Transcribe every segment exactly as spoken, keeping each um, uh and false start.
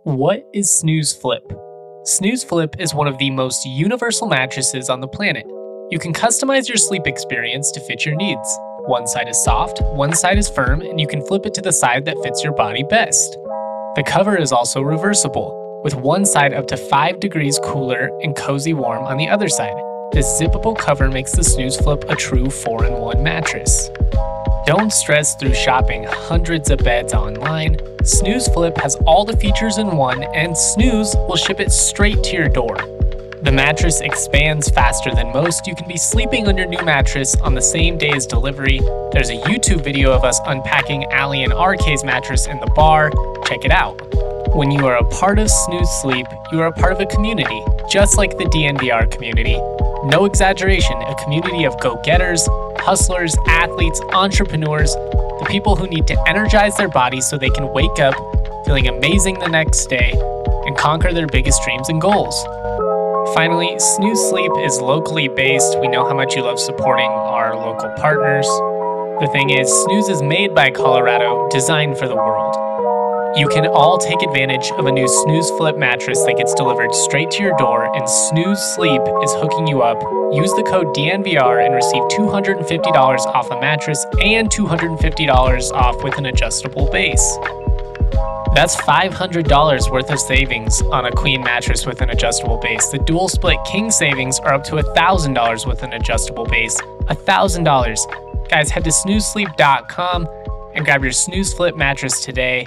What is Snooze Flip? Snooze Flip is one of the most universal mattresses on the planet. You can customize your sleep experience to fit your needs. One side is soft, one side is firm, and you can flip it to the side that fits your body best. The cover is also reversible, with one side up to five degrees cooler and cozy warm on the other side. This zippable cover makes the Snooze Flip a true four in one mattress. Don't stress through shopping hundreds of beds online. Snooze Flip has all the features in one, and Snooze will ship it straight to your door. The mattress expands faster than most. You can be sleeping on your new mattress on the same day as delivery. There's a YouTube video of us unpacking Allie and R K's mattress in the bar. Check it out. When you are a part of Snooze Sleep, you are a part of a community, just like the D N V R community. No exaggeration, a community of go-getters, hustlers, athletes, entrepreneurs, the people who need to energize their bodies so they can wake up feeling amazing the next day and conquer their biggest dreams and goals. Finally, Snooze Sleep is locally based. We know how much you love supporting our local partners. The thing is, Snooze is made by Colorado, designed for the world. You can all take advantage of a new Snooze Flip mattress that gets delivered straight to your door, and Snooze Sleep is hooking you up. Use the code D N V R and receive two hundred fifty dollars off a mattress and two hundred fifty dollars off with an adjustable base. That's five hundred dollars worth of savings on a queen mattress with an adjustable base. The dual split king savings are up to one thousand dollars with an adjustable base. one thousand dollars. Guys, head to snooze sleep dot com and grab your Snooze Flip mattress today.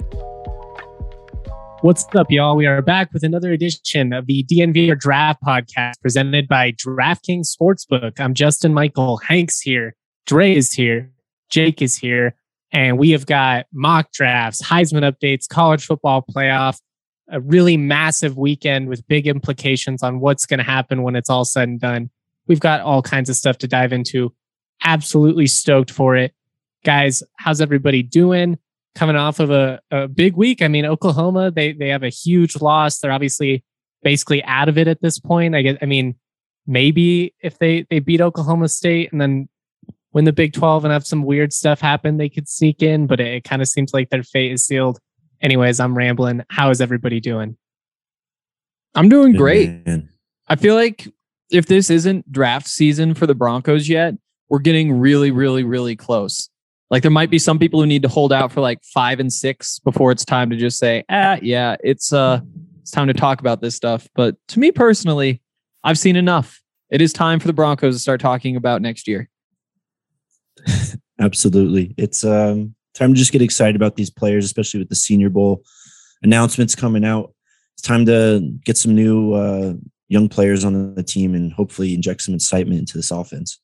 What's up, y'all? We are back with another edition of the D N V R Draft Podcast presented by DraftKings Sportsbook. I'm Justin Michael. Hank's here. Dre is here. Jake is here. And we have got mock drafts, Heisman updates, college football playoff, a really massive weekend with big implications on what's going to happen when it's all said and done. We've got all kinds of stuff to dive into. Absolutely stoked for it. Guys, how's everybody doing? Coming off of a, a big week. I mean, Oklahoma, they they have a huge loss. They're obviously basically out of it at this point. I guess, I mean, maybe if they, they beat Oklahoma State and then win the Big twelve and have some weird stuff happen, they could sneak in, but it, it kind of seems like their fate is sealed. Anyways, I'm rambling. How is everybody doing? I'm doing great. Man. I feel like if this isn't draft season for the Broncos yet, we're getting really, really, really close. Like there might be some people who need to hold out for like five and six before it's time to just say, ah, yeah, it's uh, it's time to talk about this stuff. But to me personally, I've seen enough. It is time for the Broncos to start talking about next year. Absolutely. It's um, time to just get excited about these players, especially with the Senior Bowl announcements coming out. It's time to get some new uh, young players on the team and hopefully inject some excitement into this offense.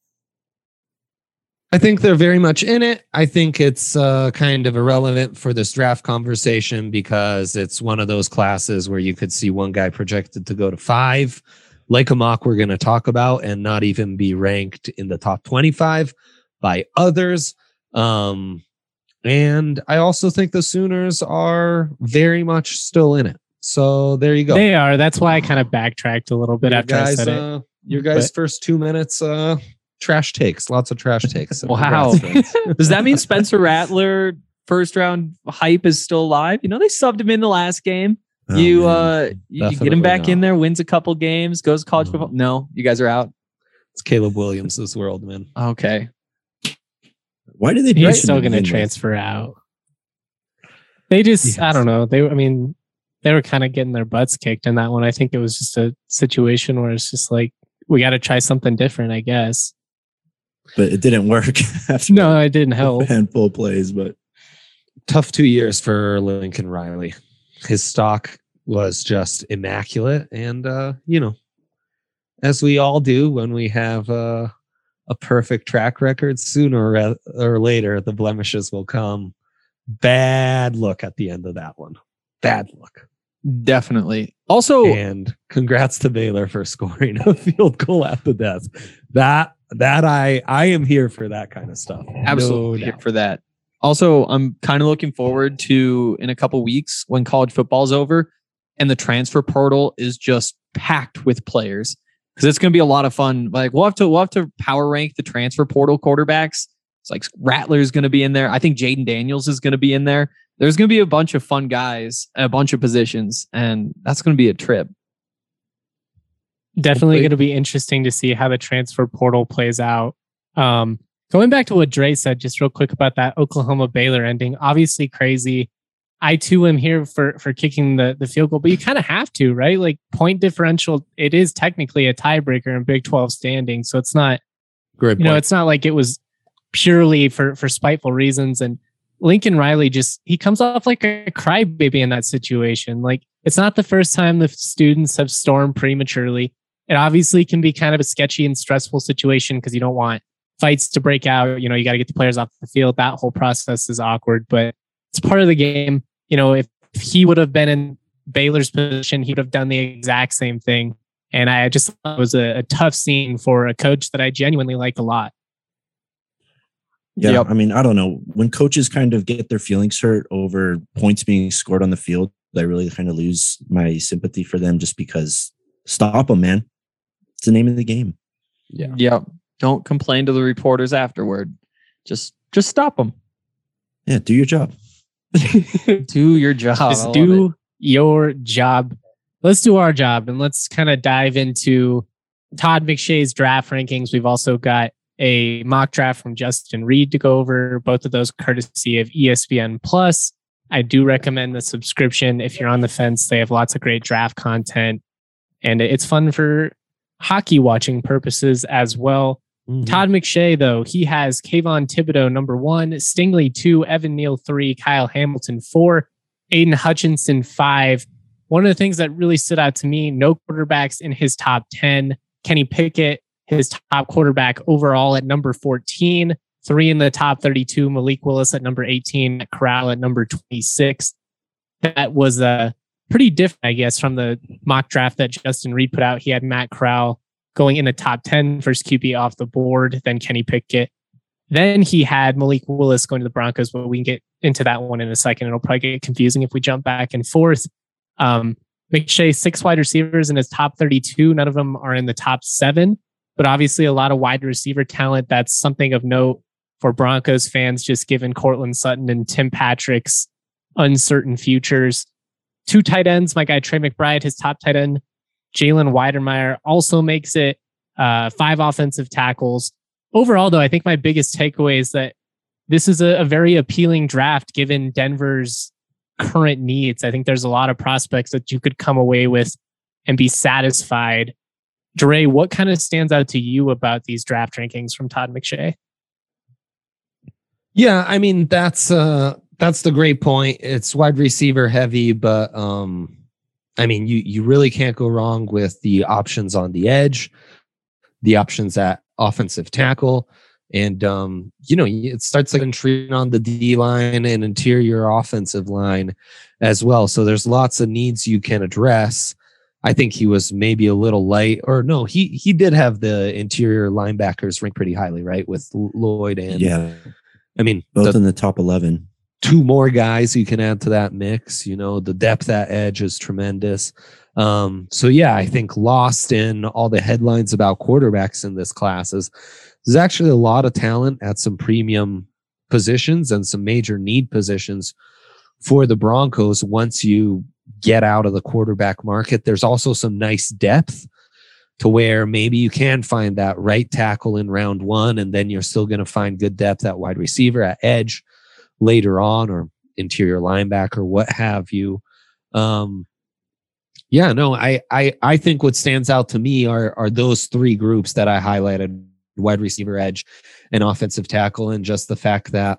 I think they're very much in it. I think it's uh, kind of irrelevant for this draft conversation because it's one of those classes where you could see one guy projected to go to five, like a mock we're going to talk about, and not even be ranked in the top twenty-five by others. Um, and I also think the Sooners are very much still in it. So there you go. They are. That's why I kind of backtracked a little bit your after guys, I said uh, it. Your guys' But, first two minutes, uh, trash takes. Lots of trash takes. Wow. Does that mean Spencer Rattler first round hype is still alive? You know, they subbed him in the last game. Oh, you uh, you, you get him back not. in there, wins a couple games, goes to college football. No, you guys are out. It's Caleb Williams' world, man. Okay. Why did they? He's still going to transfer out. They just, yes. I don't know. They, I mean, they were kind of getting their butts kicked in that one. I think it was just a situation where it's just like, we got to try something different, I guess. But it didn't work. After no, it didn't help. A handful of plays, but tough two years for Lincoln Riley. His stock was just immaculate, and uh, you know, as we all do when we have uh, a perfect track record, sooner or, or later the blemishes will come. Bad look at the end of that one. Bad look. Definitely. Also, and congrats to Baylor for scoring a field goal at the death. That that I I am here for that kind of stuff. Absolutely no here for that. Also, I'm kind of looking forward to in a couple weeks when college football is over and the transfer portal is just packed with players because it's going to be a lot of fun. Like we'll have to we'll have to power rank the transfer portal quarterbacks. It's like Rattler's going to be in there. I think Jaden Daniels is going to be in there. there's going to be a bunch of fun guys, a bunch of positions, and that's going to be a trip. Definitely going to be interesting to see how the transfer portal plays out. Um, going back to what Dre said, just real quick about that Oklahoma Baylor ending, obviously crazy. I too am here for for kicking the, the field goal, but you kind of have to, right? Like point differential, it is technically a tiebreaker in Big twelve standing, so it's not, Great you know, point. it's not like it was purely for for spiteful reasons. And Lincoln Riley just he comes off like a crybaby in that situation. Like it's not the first time the students have stormed prematurely. It obviously can be kind of a sketchy and stressful situation because you don't want fights to break out. You know, you got to get the players off the field. That whole process is awkward, but it's part of the game. You know, if he would have been in Baylor's position, he would have done the exact same thing. And I just thought it was a, a tough scene for a coach that I genuinely like a lot. Yeah, Yep. I mean, I don't know. When coaches kind of get their feelings hurt over points being scored on the field, I really kind of lose my sympathy for them just because stop them, man. It's the name of the game. Yeah. Yep. Don't complain to the reporters afterward. Just just stop them. Yeah, do your job. Do your job. I Just love do it. your job. Let's do our job and let's kind of dive into Todd McShay's draft rankings. We've also got a mock draft from Justin Reed to go over, both of those courtesy of E S P N Plus. I do recommend the subscription if you're on the fence. They have lots of great draft content and it's fun for hockey watching purposes as well. Mm-hmm. Todd McShay, though, he has Kayvon Thibodeau, number one, Stingley, two, Evan Neal, three, Kyle Hamilton, four, Aiden Hutchinson, five. One of the things that really stood out to me, no quarterbacks in his top ten. Kenny Pickett, his top quarterback overall at number fourteen, three in the top thirty-two, Malik Willis at number eighteen, Matt Corral at number twenty-six. That was uh, pretty different, I guess, from the mock draft that Justin Reed put out. He had Matt Corral going in the top ten, first Q B off the board, then Kenny Pickett. Then he had Malik Willis going to the Broncos, but we can get into that one in a second. It'll probably get confusing if we jump back and forth. Um, McShay, six wide receivers in his top thirty-two. None of them are in the top seven, but obviously a lot of wide receiver talent. That's something of note for Broncos fans, just given Cortland Sutton and Tim Patrick's uncertain futures. Two tight ends, my guy Trey McBride, his top tight end, Jalen Weidermeyer also makes it. Uh, five offensive tackles. Overall, though, I think my biggest takeaway is that this is a, a very appealing draft given Denver's current needs. I think there's a lot of prospects that you could come away with and be satisfied. Dre, what kind of stands out to you about these draft rankings from Todd McShay? Yeah, I mean, that's uh, that's the great point. It's wide receiver heavy, but um, I mean, you you really can't go wrong with the options on the edge, the options at offensive tackle, and um, you know, it starts like intriguing on the D line and interior offensive line as well. So there's lots of needs you can address. I think he was maybe a little light, or no, he he did have the interior linebackers ranked pretty highly, right? With Lloyd and yeah, I mean, both the, in the top eleven. Two more guys you can add to that mix. You know, the depth at edge is tremendous. Um, so yeah, I think lost in all the headlines about quarterbacks in this class is there's actually a lot of talent at some premium positions and some major need positions for the Broncos. Once you get out of the quarterback market, there's also some nice depth to where maybe you can find that right tackle in round one, and then you're still going to find good depth at wide receiver, at edge later on, or interior linebacker, what have you. Um, yeah, no, I, I, I think what stands out to me are, are those three groups that I highlighted: wide receiver, edge, and offensive tackle. And just the fact that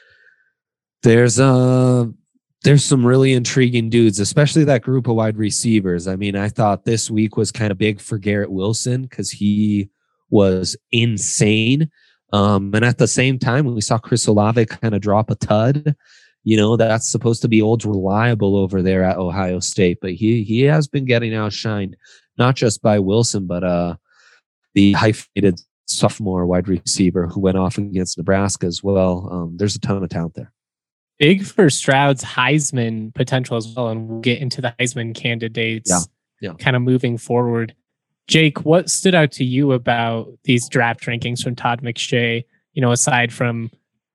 there's uh there's some really intriguing dudes, especially that group of wide receivers. I mean, I thought this week was kind of big for Garrett Wilson because he was insane. Um, and at the same time, we saw Chris Olave kind of drop a tud. You know, that's supposed to be old reliable over there at Ohio State, but he he has been getting outshined, not just by Wilson, but uh, the hyphenated sophomore wide receiver who went off against Nebraska as well. Um, there's a ton of talent there. Big for Stroud's Heisman potential as well, and we'll get into the Heisman candidates Yeah. Yeah. kind of moving forward. Jake, what stood out to you about these draft rankings from Todd McShay? You know, aside from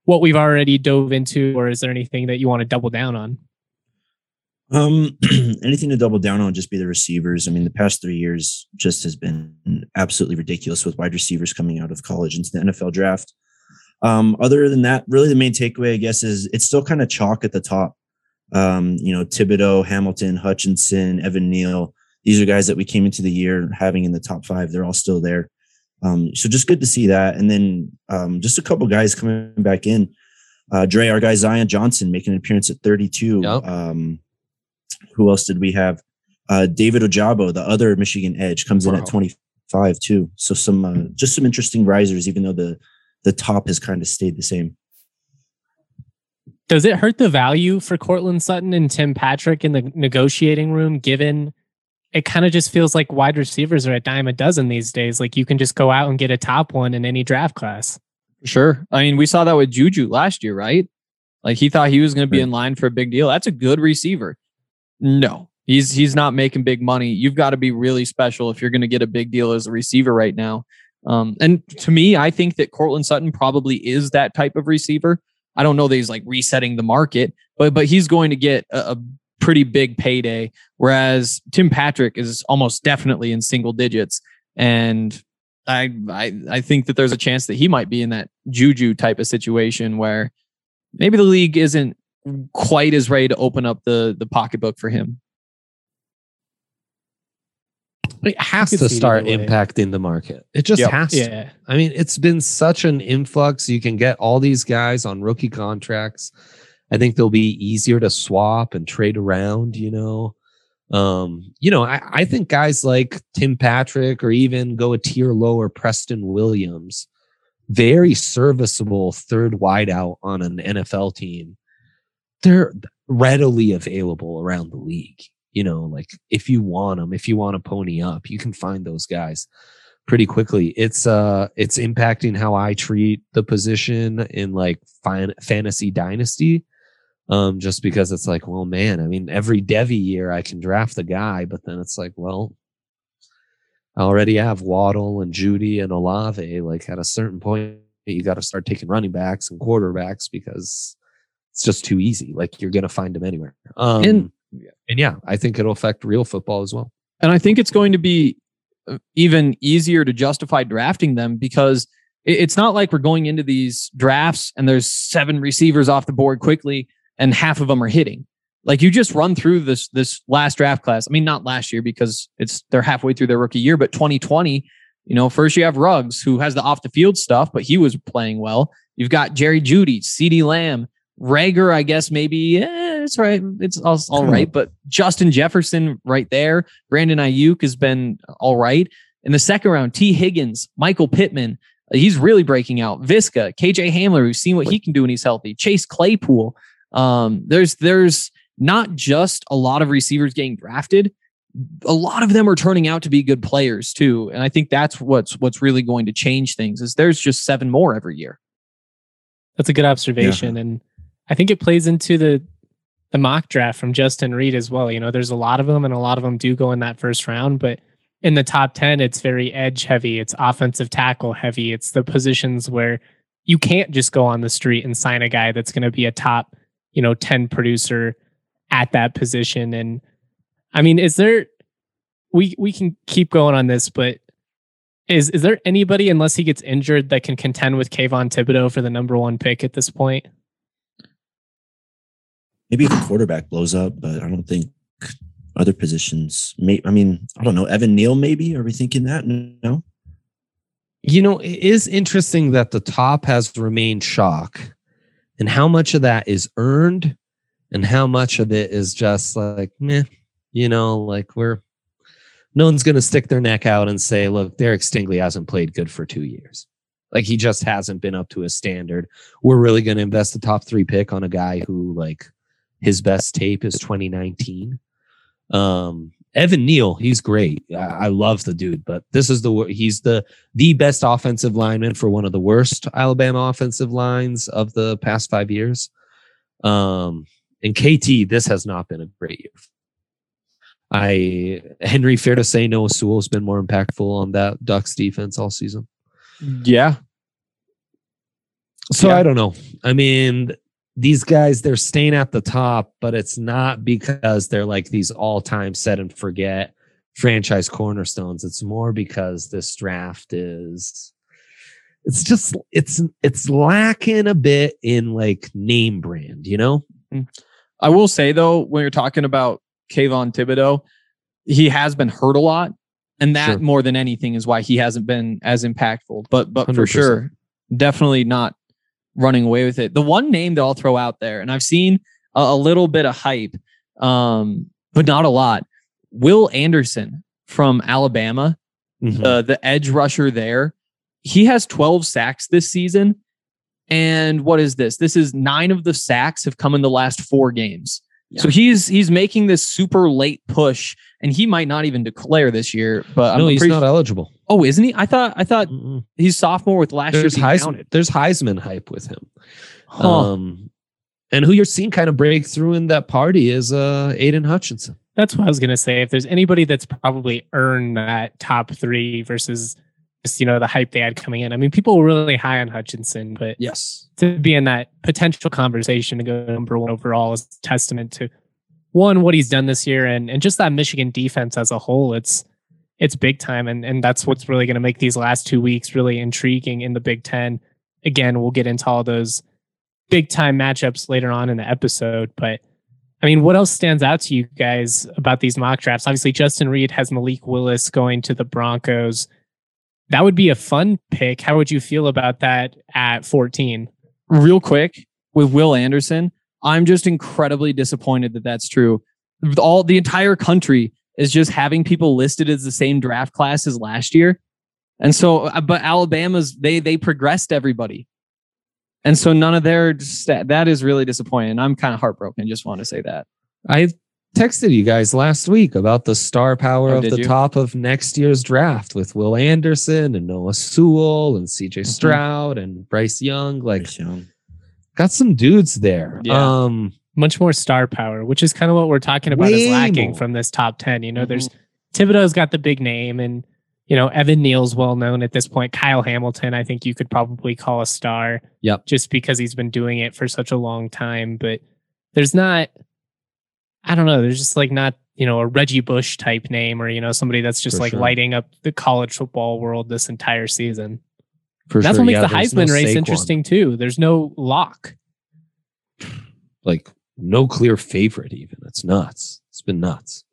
what we've already dove into, or is there anything that you want to double down on? Um, anything to double down on, just be the receivers. I mean, the past three years just has been absolutely ridiculous with wide receivers coming out of college into the N F L draft. Um, other than that, really the main takeaway, I guess, is it's still kind of chalk at the top. Um, you know, Thibodeau, Hamilton, Hutchinson, Evan Neal. These are guys that we came into the year having in the top five. They're all still there. Um, so just good to see that. And then um, just a couple guys coming back in. Uh, Dre, our guy Zion Johnson making an appearance at thirty-two. Yep. Um, who else did we have? Uh, David Ojabo, the other Michigan edge, comes in Wow. at twenty-five too. So some uh, just some interesting risers, even though the the top has kind of stayed the same. Does it hurt the value for Cortland Sutton and Tim Patrick in the negotiating room, given it kind of just feels like wide receivers are a dime a dozen these days? Like you can just go out and get a top one in any draft class. Sure. I mean, we saw that with Juju last year, right? Like he thought he was going to be Right. in line for a big deal. That's a good receiver. No, he's he's not making big money. You've got to be really special if you're going to get a big deal as a receiver right now. Um, and to me, I think that Cortland Sutton probably is that type of receiver. I don't know that he's like resetting the market, but but he's going to get a, a pretty big payday. Whereas Tim Patrick is almost definitely in single digits, and I I I think that there's a chance that he might be in that Juju type of situation where maybe the league isn't quite as ready to open up the the pocketbook for him. It has could to see it start either way. impacting the market. It just Yep. has to. Yeah. I mean, it's been such an influx. You can get all these guys on rookie contracts. I think they'll be easier to swap and trade around, you know. Um, you know, I, I think guys like Tim Patrick or even go a tier lower, Preston Williams, very serviceable third wideout on an N F L team. They're readily available around the league. You know, like if you want them, if you want to pony up, you can find those guys pretty quickly. It's uh, it's impacting how I treat the position in like fin- fantasy dynasty. Um, just because it's like, well, man, I mean, every Devy year I can draft the guy, but then it's like, well, I already have Waddle and Judy and Olave. Like at a certain point, you got to start taking running backs and quarterbacks because it's just too easy. Like you're going to find them anywhere. Um, And- and yeah, I think it'll affect real football as well. And I think it's going to be even easier to justify drafting them because it- it's not like we're going into these drafts and there's seven receivers off the board quickly and half of them are hitting. Like you just run through this this last draft class. I mean, not last year because it's they're halfway through their rookie year, but twenty twenty, you know, first you have Ruggs who has the off the field stuff, but he was playing well. You've got Jerry Jeudy, CeeDee Lamb, Rager, I guess maybe eh, it's right. It's all, all right. But Justin Jefferson right there. Brandon Ayuk has been all right. In the second round, T. Higgins, Michael Pittman, he's really breaking out. Visca, K J Hamler, who's seen what he can do when he's healthy. Chase Claypool. Um, there's there's not just a lot of receivers getting drafted. A lot of them are turning out to be good players too. And I think that's what's what's really going to change things is there's just seven more every year. That's a good observation. And I think it plays into the the mock draft from Justin Reed as well. You know, there's a lot of them and a lot of them do go in that first round, but in the top ten, it's very edge heavy. It's offensive tackle heavy. It's the positions where you can't just go on the street and sign a guy that's going to be a top, you know, ten producer at that position. And I mean, is there, we, we can keep going on this, but is, is there anybody, unless he gets injured, that can contend with Kayvon Thibodeau for the number one pick at this point? Maybe if a quarterback blows up, but I don't think other positions. May, I mean, I don't know. Evan Neal, maybe? Are we thinking that? No. You know, it is interesting that the top has remained shock, and how much of that is earned, and how much of it is just like, meh. You know, like we're no one's going to stick their neck out and say, "Look, Derek Stingley hasn't played good for two years. Like he just hasn't been up to his standard. We're really going to invest the top three pick on a guy who like." His best tape is twenty nineteen. Um, Evan Neal, he's great. I, I love the dude, but this is the he's the the best offensive lineman for one of the worst Alabama offensive lines of the past five years. Um, and K T, this has not been a great year. I Henry, fair to say, Noah Sewell's been more impactful on that Ducks defense all season. Yeah. So Yeah. I don't know. I mean, these guys, they're staying at the top, but it's not because they're like these all-time set and forget franchise cornerstones. It's more because this draft is, it's just, it's, it's lacking a bit in like name brand, you know? I will say though, when you're talking about Kayvon Thibodeau, he has been hurt a lot. And that Sure. more than anything is why he hasn't been as impactful. But but one hundred for percent. sure, definitely not running away with it. The one name that I'll throw out there, and I've seen a, a little bit of hype, um, but not a lot. Will Anderson from Alabama, Mhm. the the edge rusher there. He has twelve sacks this season. And what is this? This is nine of the sacks have come in the last four games. So he's he's making this super late push, and he might not even declare this year. But no, I'm he's pretty not su- eligible. Oh, isn't he? I thought I thought Mm-mm. he's sophomore with last There's, year being Heisman, counted. there's Heisman hype with him. Huh. Um, and who you're seeing kind of break through in that party is uh, Aiden Hutchinson. That's what I was going to say. If there's anybody that's probably earned that top three versus just, you know, the hype they had coming in. I mean, people were really high on Hutchinson, but Yes. to be in that potential conversation to go number one overall is a testament to one, what he's done this year, and and just that Michigan defense as a whole. It's it's big time, and and that's what's really going to make these last two weeks really intriguing in the Big Ten. Again, we'll get into all those big time matchups later on in the episode, but I mean, what else stands out to you guys about these mock drafts? Obviously, Justin Reed has Malik Willis going to the Broncos. That would be a fun pick. How would you feel about that at fourteen? Real quick with Will Anderson, I'm just incredibly disappointed that that's true. All the entire country is just having people listed as the same draft class as last year, and so but Alabama's they they progressed everybody, and so none of their stat, that is really disappointing. I'm kind of heartbroken. Just want to say that. I texted you guys last week about the star power Oh, of did the you? top of next year's draft with Will Anderson and Noah Sewell and C J Mhm. Stroud and Bryce Young. Like, Bryce Young. got some dudes there. Yeah. Um, Much more star power, which is kind of what we're talking about is Way lacking more. from this top ten. You know, Mhm. there's Thibodeau's got the big name, and, you know, Evan Neal's well known at this point. Kyle Hamilton, I think you could probably call a star. Yep. Just because he's been doing it for such a long time. But there's not, I don't know, there's just like not, you know, a Reggie Bush type name, or, you know, somebody that's just For like sure. lighting up the college football world this entire season. for That's sure. what makes Yeah, the there's Heisman no race Saquon. interesting too. There's no lock. Like, no clear favorite even. It's nuts. It's been nuts.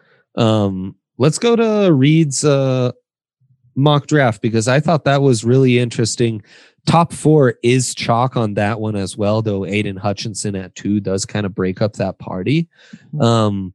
Um, let's go to Reed's uh, mock draft, because I thought that was really interesting. Top four is chalk on that one as well, though Aiden Hutchinson at two does kind of break up that party. Um,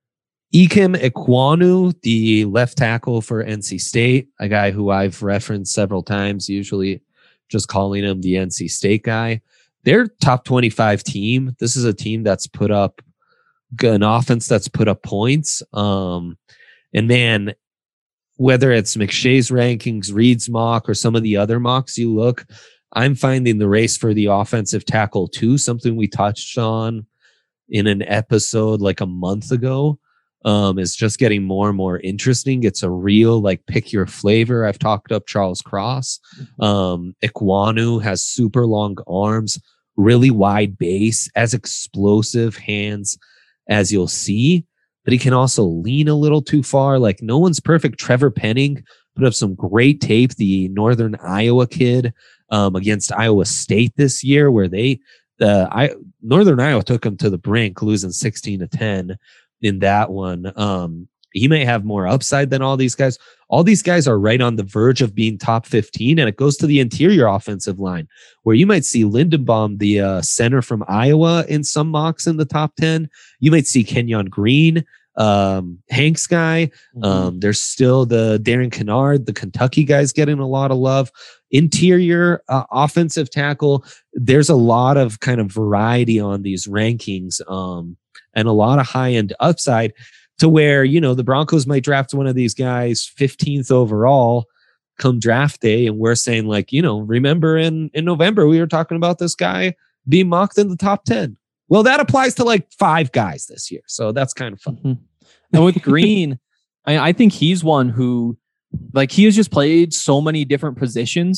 Ikem Ekwonu, the left tackle for N C State, a guy who I've referenced several times, usually just calling him the N C State guy. They're top twenty-five team. This is a team that's put up an offense that's put up points. Um, and man, whether it's McShay's rankings, Reed's mock, or some of the other mocks you look, I'm finding the race for the offensive tackle too, something we touched on in an episode like a month ago, um, is just getting more and more interesting. It's a real, like, pick your flavor. I've talked up Charles Cross. Um, Ekwonu has super long arms, really wide base, as explosive hands as you'll see, but he can also lean a little too far. Like, no one's perfect. Trevor Penning put up some great tape, the Northern Iowa kid, um, against Iowa State this year, where they, the I, Northern Iowa took him to the brink, losing sixteen to ten in that one. Um, he may have more upside than all these guys. All these guys are right on the verge of being top fifteen, and it goes to the interior offensive line, where you might see Lindenbaum, the uh, center from Iowa, in some mocks in the top ten. You might see Kenyon Green, um, Hank's guy. Um, there's still the Darren Kennard, the Kentucky guys, getting a lot of love. Interior uh, offensive tackle, there's a lot of kind of variety on these rankings, um, and a lot of high-end upside, to where, you know, the Broncos might draft one of these guys fifteenth overall come draft day, and we're saying, like, you know, remember in, in November we were talking about this guy being mocked in the top ten. Well, that applies to like five guys this year, so that's kind of fun. Mhm. And with Green, I, I think he's one who, like, he has just played so many different positions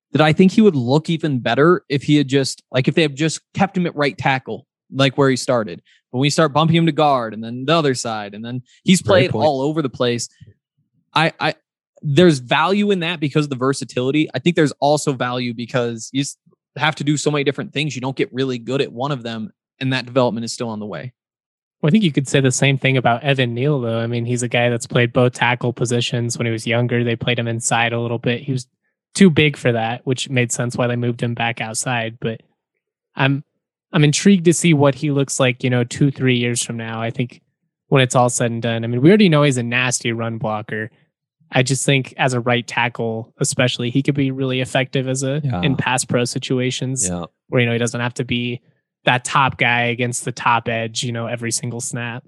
that I think he would look even better if he had just, like, if they had just kept him at right tackle, like where he started. But when we start bumping him to guard and then the other side, and then he's played all over the place. I, I, there's value in that because of the versatility. I think there's also value because you have to do so many different things. You don't get really good at one of them, and that development is still on the way. Well, I think you could say the same thing about Evan Neal, though. I mean, he's a guy that's played both tackle positions when he was younger. They played him inside a little bit. He was too big for that, which made sense why they moved him back outside. But I'm I'm intrigued to see what he looks like, you know, two, three years from now. I think when it's all said and done, I mean, we already know he's a nasty run blocker. I just think as a right tackle, especially, he could be really effective as a yeah. in pass pro situations yeah. where, you know, he doesn't have to be that top guy against the top edge, you know, every single snap.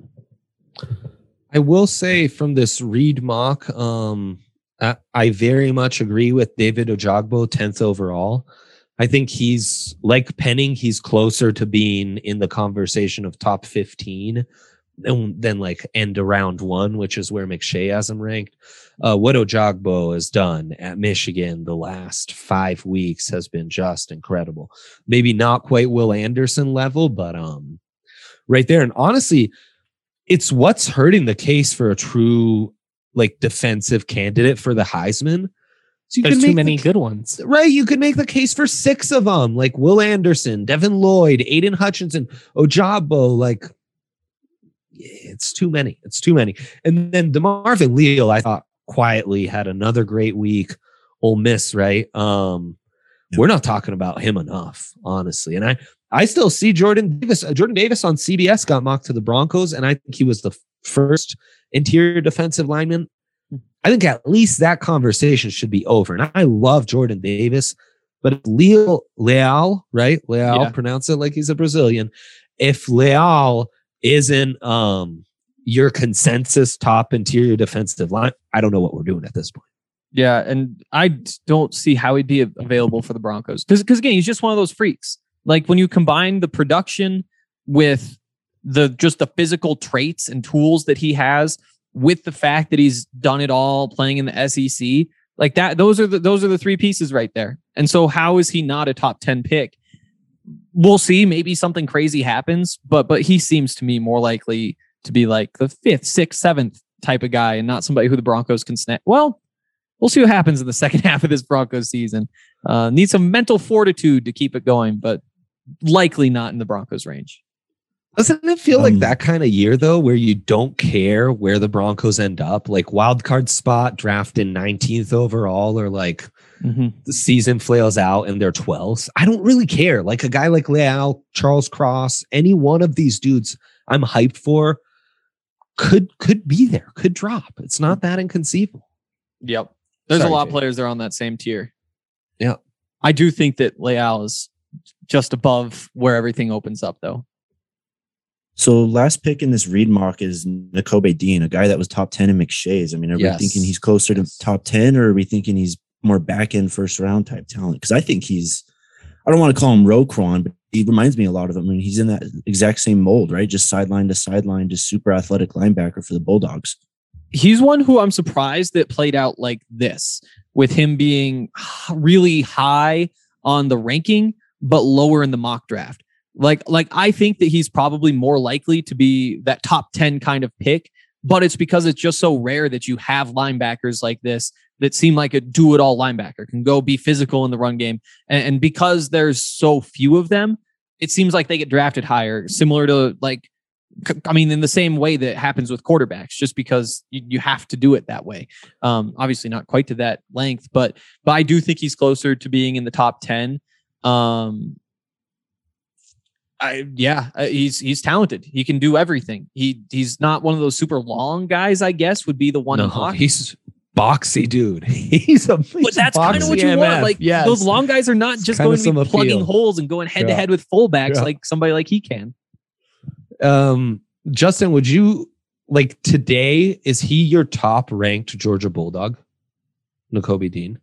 I will say from this Reed mock, um, I, I very much agree with David Ojagbo, tenth overall. I think he's like Penning. He's closer to being in the conversation of top fifteen than, than like end of round one, which is where McShay has him ranked. Uh, what Ojagbo has done at Michigan the last five weeks has been just incredible. Maybe not quite Will Anderson level, but um, right there. And honestly, it's what's hurting the case for a true like defensive candidate for the Heisman. So you There's too many the, good ones. Right. You could make the case for six of them, like Will Anderson, Devin Lloyd, Aiden Hutchinson, Ojabo. Like, it's too many. It's too many. And then DeMarvin Leal, I thought quietly had another great week. Ole Miss, right? Um, yeah. We're not talking about him enough, honestly. And I, I still see Jordan Davis. Uh, Jordan Davis on C B S got mocked to the Broncos, and I think he was the first interior defensive lineman. I think at least that conversation should be over. And I love Jordan Davis, but if Leal, Leal, right? Leal, yeah. pronounce it like he's a Brazilian. If Leal isn't um, your consensus top interior defensive line, I don't know what we're doing at this point. Yeah, and I don't see how he'd be available for the Broncos. Because, because again, he's just one of those freaks. Like when you combine the production with the just the physical traits and tools that he has, with the fact that he's done it all playing in the S E C, like that, those are the those are the three pieces right there. And so how is he not a top ten pick? We'll see. Maybe something crazy happens, but but he seems to me more likely to be like the fifth, sixth, seventh type of guy, and not somebody who the Broncos can snap. Well, we'll see what happens in the second half of this Broncos season. Uh, need some mental fortitude to keep it going, but likely not in the Broncos range. Doesn't it feel um, like that kind of year, though, where you don't care where the Broncos end up? Like wild card spot, drafted nineteenth overall, or like mm-hmm. the season flails out and they're twelfth. I don't really care. Like a guy like Leal, Charles Cross, any one of these dudes I'm hyped for could could be there, could drop. It's not that inconceivable. Yep. There's Sorry, a lot Jay. of players that are on that same tier. Yeah. I do think that Leal is just above where everything opens up, though. So last pick in this Reed mock is Nakobe Dean, a guy that was top ten in McShay's. I mean, are yes. we thinking he's closer to top ten, or are we thinking he's more back end first round type talent? Because I think he's, I don't want to call him Roquan, but he reminds me a lot of him. I mean, he's in that exact same mold, right? Just sideline to sideline, just super athletic linebacker for the Bulldogs. He's one who I'm surprised that played out like this, with him being really high on the ranking, but lower in the mock draft. Like, like I think that he's probably more likely to be that top ten kind of pick, but it's because it's just so rare that you have linebackers like this that seem like a do-it-all linebacker, can go be physical in the run game. And, and because there's so few of them, it seems like they get drafted higher, similar to like, I mean, in the same way that happens with quarterbacks, just because you, you have to do it that way. Um, obviously not quite to that length, but, but I do think he's closer to being in the top ten. Um, I, yeah, uh, he's he's talented. He can do everything. He he's not one of those super long guys, I guess, would be the one. No, he's boxy, dude. He's a he's but that's kind of what you M F. Want. Like yes. Those long guys are not just going to be plugging appeal. holes and going head to head with fullbacks yeah. like somebody like he can. Um, Justin, would you like today? Is he your top ranked Georgia Bulldog, Nakobe Dean?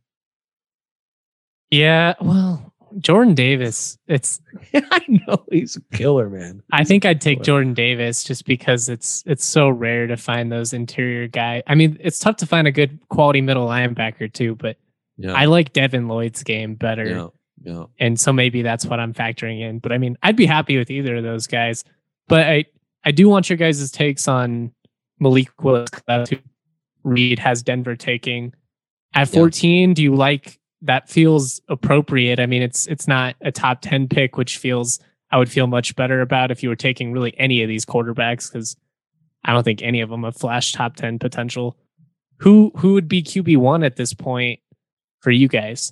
Yeah, well. Jordan Davis, it's I know he's a killer, man. I think I'd take Jordan Davis just because it's it's so rare to find those interior guys. I mean, it's tough to find a good quality middle linebacker too, but Yeah. I like Devin Lloyd's game better. Yeah. Yeah. And so maybe that's what I'm factoring in. But I mean, I'd be happy with either of those guys. But I, I do want your guys' takes on Malik Willis. That's who Reed has Denver taking. At fourteen, yeah. Do you like that? Feels appropriate. I mean, it's it's not a top ten pick, which feels I would feel much better about if you were taking really any of these quarterbacks, because I don't think any of them have flash top ten potential. Who who would be Q B one at this point for you guys?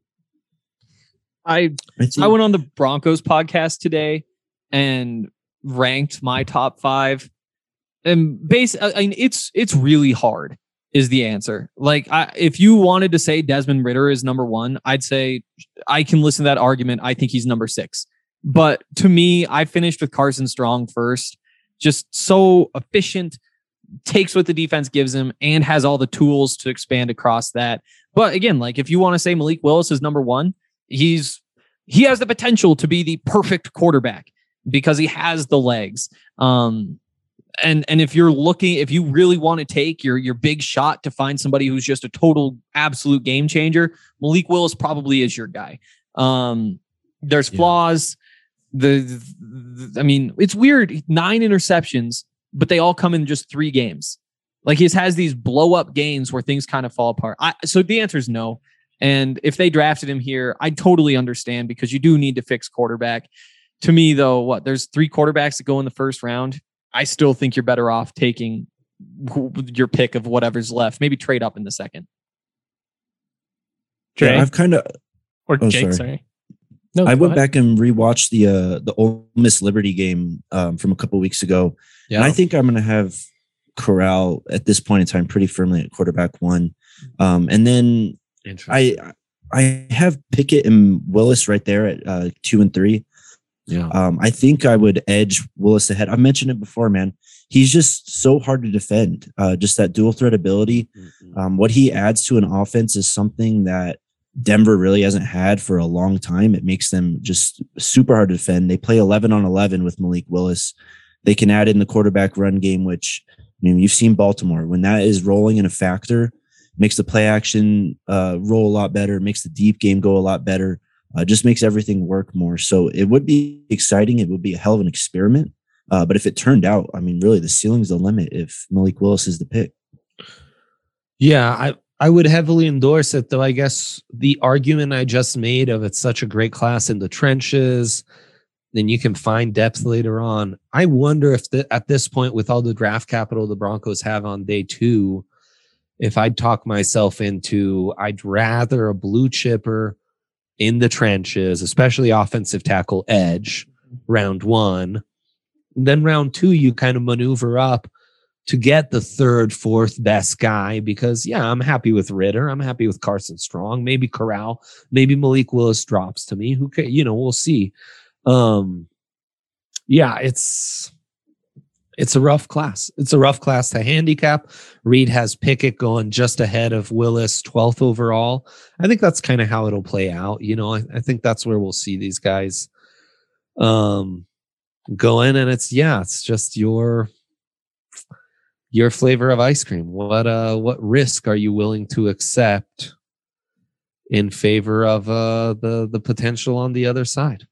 I I went on the Broncos podcast today and ranked my top five, and base. I mean, it's it's really hard. Is the answer. Like, I, if you wanted to say Desmond Ridder is number one, I'd say I can listen to that argument. I think he's number six. But to me, I finished with Carson Strong first. Just so efficient, takes what the defense gives him, and has all the tools to expand across that. But again, like if you want to say Malik Willis is number one, he's he has the potential to be the perfect quarterback because he has the legs. Um, And and if you're looking, if you really want to take your your big shot to find somebody who's just a total absolute game changer, Malik Willis probably is your guy. Um, there's yeah. flaws. The, the I mean, it's weird. Nine interceptions, but they all come in just three games. Like he has these blow up games where things kind of fall apart. I, so the answer is no. And if they drafted him here, I totally understand because you do need to fix quarterback. To me, though, what there's three quarterbacks that go in the first round. I still think you're better off taking your pick of whatever's left. Maybe trade up in the second. Dre? Yeah, I've kind of or oh, Jake. Sorry, sorry. No, I went ahead. back and rewatched the uh, the Ole Miss Liberty game um, from a couple weeks ago, yeah. and I think I'm going to have Corral at this point in time pretty firmly at quarterback one, um, and then I I have Pickett and Willis right there at uh, two and three. Yeah, um, I think I would edge Willis ahead. I've mentioned it before, man. He's just so hard to defend. Uh, just that dual threat ability. Mm-hmm. Um, what he adds to an offense is something that Denver really hasn't had for a long time. It makes them just super hard to defend. They play eleven on eleven with Malik Willis. They can add in the quarterback run game, which I mean, you've seen Baltimore. When that is rolling in a factor, makes the play action uh, roll a lot better, makes the deep game go a lot better. Uh, just makes everything work more. So it would be exciting. It would be a hell of an experiment. Uh, but if it turned out, I mean, really, the ceiling's the limit if Malik Willis is the pick. Yeah, I, I would heavily endorse it, though. I guess the argument I just made of it's such a great class in the trenches, then you can find depth later on. I wonder if the, at this point, with all the draft capital the Broncos have on day two, if I'd talk myself into, I'd rather a blue chipper in the trenches, especially offensive tackle edge, round one. And then round two, you kind of maneuver up to get the third, fourth best guy because, yeah, I'm happy with Ridder. I'm happy with Carson Strong. Maybe Corral. Maybe Malik Willis drops to me. Who can, you know, we'll see. Um, yeah, it's it's a rough class. It's a rough class to handicap. Reed has Pickett going just ahead of Willis, twelfth overall. I think that's kind of how it'll play out. You know, I, I think that's where we'll see these guys um, go in. And it's, yeah, it's just your your flavor of ice cream. What uh, what risk are you willing to accept in favor of uh, the the potential on the other side?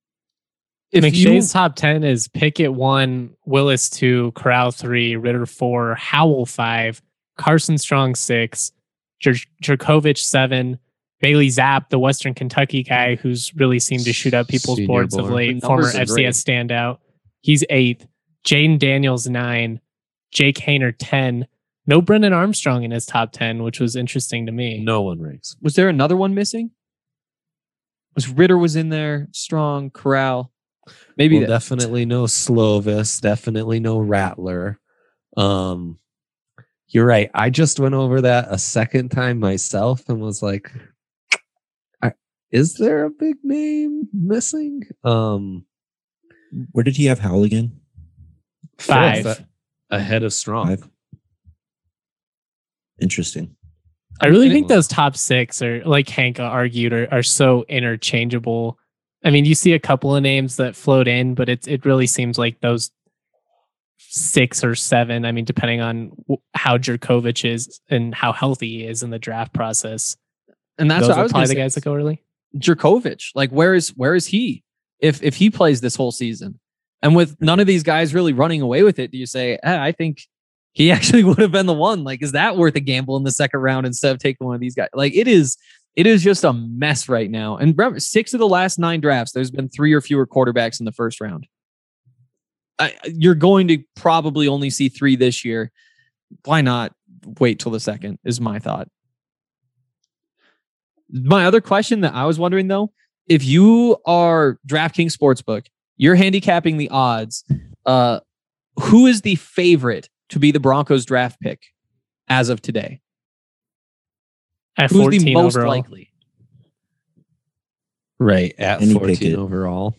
If McShay's top ten is Pickett one, Willis two, Corral three, Ridder four, Howell five, Carson Strong six, Jer- Jerkovich seven, Bailey Zapp, the Western Kentucky guy who's really seemed to shoot up people's Senior boards board. of late, former F C S standout. He's eighth. Jaden Daniels nine, Jake Haener ten. No Brendan Armstrong in his top ten, which was interesting to me. No one ranks. Was there another one missing? Was Ridder was in there? Strong, Corral. Maybe well, definitely no Slovis, definitely no Rattler. Um, you're right. I just went over that a second time myself and was like, is there a big name missing? Um, Where did he have Howell again? Five. Fourth, ahead of Strong. Five. Interesting. I really think those top six are, like Hank argued, are, are so interchangeable. I mean, you see a couple of names that float in, but it's it really seems like those six or seven. I mean, depending on how Jerkovich is and how healthy he is in the draft process. And that's Those what I was probably going to the say. guys that go early. Djokovic, like where is where is he if if he plays this whole season? And with none of these guys really running away with it, do you say, eh, I think he actually would have been the one? Like, is that worth a gamble in the second round instead of taking one of these guys? Like, it is, it is just a mess right now. And remember, six of the last nine drafts, there's been three or fewer quarterbacks in the first round. I, you're going to probably only see three this year. Why not wait till the second? Is my thought. My other question that I was wondering though, if you are DraftKings Sportsbook, you're handicapping the odds. Uh, who is the favorite to be the Broncos draft pick as of today? At Who's fourteen the most overall. likely? Right at Kenny fourteen Pickett. overall.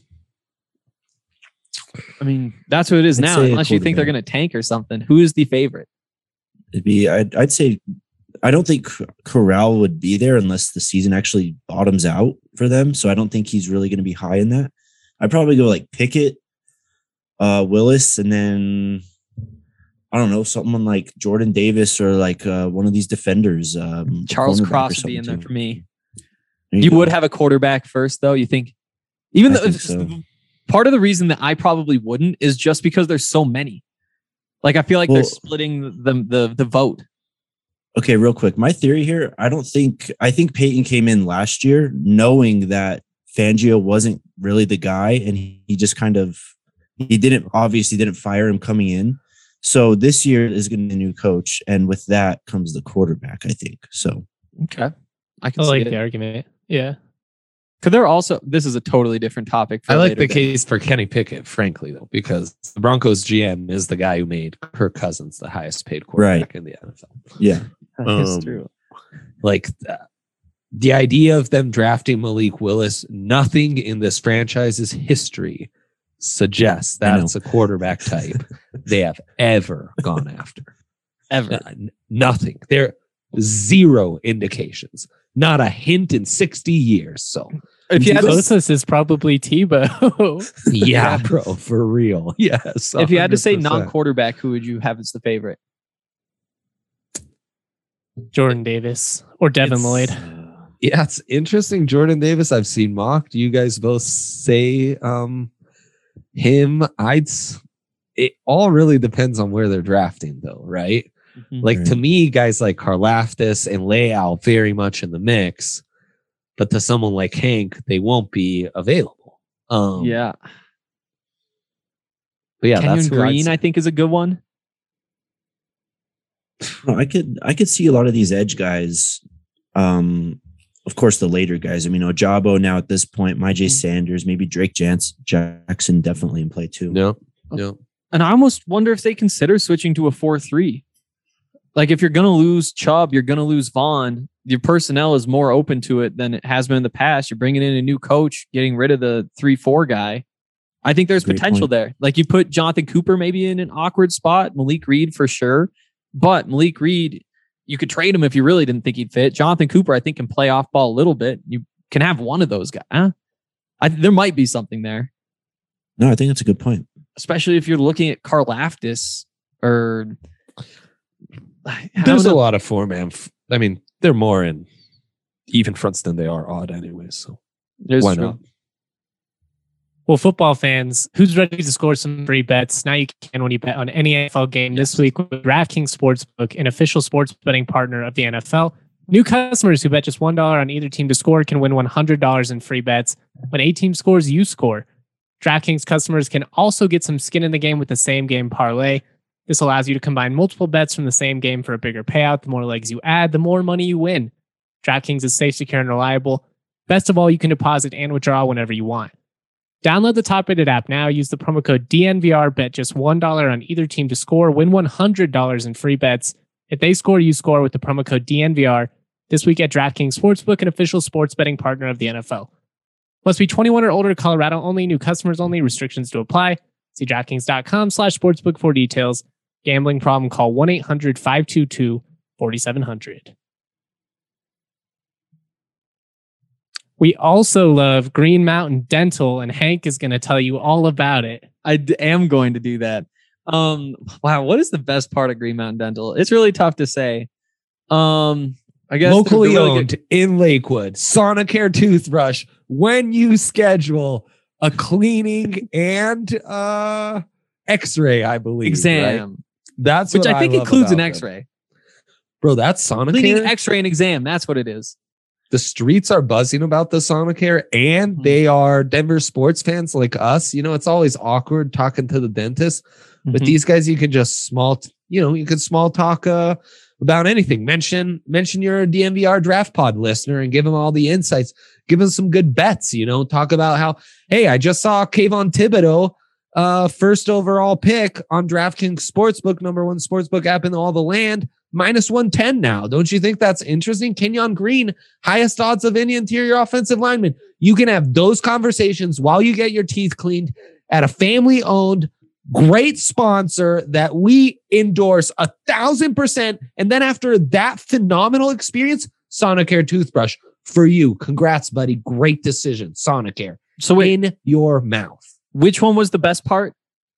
I mean, that's who it is I'd now. say a Unless you think they're going to tank or something. Who is the favorite? It'd be, I'd, I'd say, I don't think Corral would be there unless the season actually bottoms out for them. So I don't think he's really going to be high in that. I'd probably go like Pickett, uh, Willis, and then I don't know, someone like Jordan Davis or like uh, one of these defenders. Um, Charles cornerback or Cross would be in something there too. for me. There You go. would have a quarterback first, though. You think, even I though think so. part of the reason that I probably wouldn't is just because there's so many. Like I feel like they're Well- splitting the the the vote. Okay, real quick. My theory here, I don't think I think Peyton came in last year knowing that Fangio wasn't really the guy, and he, he just kind of he didn't obviously didn't fire him coming in. So this year is going to be a new coach, and with that comes the quarterback, I think. So Okay, I can I see like it. the argument. Yeah. Because they're also, this is a totally different topic. For I like later the day. case for Kenny Pickett, frankly, though, because the Broncos G M is the guy who made Kirk Cousins the highest paid quarterback in the N F L. yeah, That's Um, true. Like uh, the idea of them drafting Malik Willis, nothing in this franchise's history suggests I know. that's a quarterback type they have ever gone after. Ever. Uh, n- nothing. There zero indications. Not a hint in sixty years. So If you had to, Closest is probably Tebow. yeah, bro, for real. Yes. if you had to say one hundred percent. non-quarterback, who would you have as the favorite? Jordan Davis or Devin It's- Lloyd. Yeah, it's interesting. Jordan Davis, I've seen mocked. You guys both say um him. I'd s- it all really depends on where they're drafting, though, right? Like to Right. me, guys like Karlaftis and Leal very much in the mix, but to someone like Hank, they won't be available. Um, yeah. but yeah, Kenyon that's who I'd Green, say. I think, is a good one. no, I could I could see a lot of these edge guys. Um, of course, the later guys. I mean, Ojabo now at this point, my J Mhm. Sanders, maybe Drake Jans- Jackson, definitely in play too. no, no. And I almost wonder if they consider switching to a four three. Like if you're going to lose Chubb, you're going to lose Vaughn. Your personnel is more open to it than it has been in the past. You're bringing in a new coach, getting rid of the three four guy. I think there's Great potential point. there. Like you put Jonathan Cooper maybe in an awkward spot, Malik Reed for sure. But Malik Reed, you could trade him if you really didn't think he'd fit. Jonathan Cooper, I think, can play off ball a little bit. You can have one of those guys. Huh? I, there might be something there, No, I think that's a good point. especially if you're looking at Karlaftis or. I don't There's a know. lot of four man. F- I mean, they're more in even fronts than they are odd, anyways. So There's why true. not? Well, football fans, who's ready to score some free bets? Now you can when you bet on any N F L game this week with DraftKings Sportsbook, an official sports betting partner of the N F L. New customers who bet just one dollar on either team to score can win one hundred dollars in free bets. When a team scores, you score. DraftKings customers can also get some skin in the game with the same game parlay. This allows you to combine multiple bets from the same game for a bigger payout. The more legs you add, the more money you win. DraftKings is safe, secure, and reliable. Best of all, you can deposit and withdraw whenever you want. Download the top-rated app now. Use the promo code D N V R. Bet just one dollar on either team to score. Win one hundred dollars in free bets. If they score, you score with the promo code D N V R. This week at DraftKings Sportsbook, an official sports betting partner of the N F L. Must be twenty-one or older, Colorado only, new customers only, restrictions to apply. See DraftKings.com slash sportsbook for details. Gambling problem, call one eight hundred five two two four seven zero zero. We also love Green Mountain Dental, and Hank is going to tell you all about it. I d- am going to do that. Um, wow, what is the best part of Green Mountain Dental? It's really tough to say. Um, I guess locally really owned good. in Lakewood, Sonicare toothbrush. When you schedule a cleaning and uh, X-ray, I believe exam, right? That's which what I think I love includes an about them. X-ray. Bro, that's Sonicare. Cleaning, X-ray, and exam. That's what it is. The streets are buzzing about the Sonicare, and Mhm. they are Denver sports fans like us. You know, it's always awkward talking to the dentist. With Mhm. these guys, you can just small, you know, you can small talk uh, about anything. Mention, mention you're a D M V R Draft Pod listener and give them all the insights. Give them some good bets. You know, talk about how, hey, I just saw Kayvon Thibodeau, uh, first overall pick on DraftKings Sportsbook, number one sportsbook app in all the land, minus one ten now. Don't you think that's interesting? Kenyon Green, highest odds of any interior offensive lineman. You can have those conversations while you get your teeth cleaned at a family-owned, great sponsor that we endorse a thousand percent. And then after that phenomenal experience, Sonicare toothbrush for you. Congrats, buddy. Great decision. Sonicare. So wait, In your mouth. which one was the best part?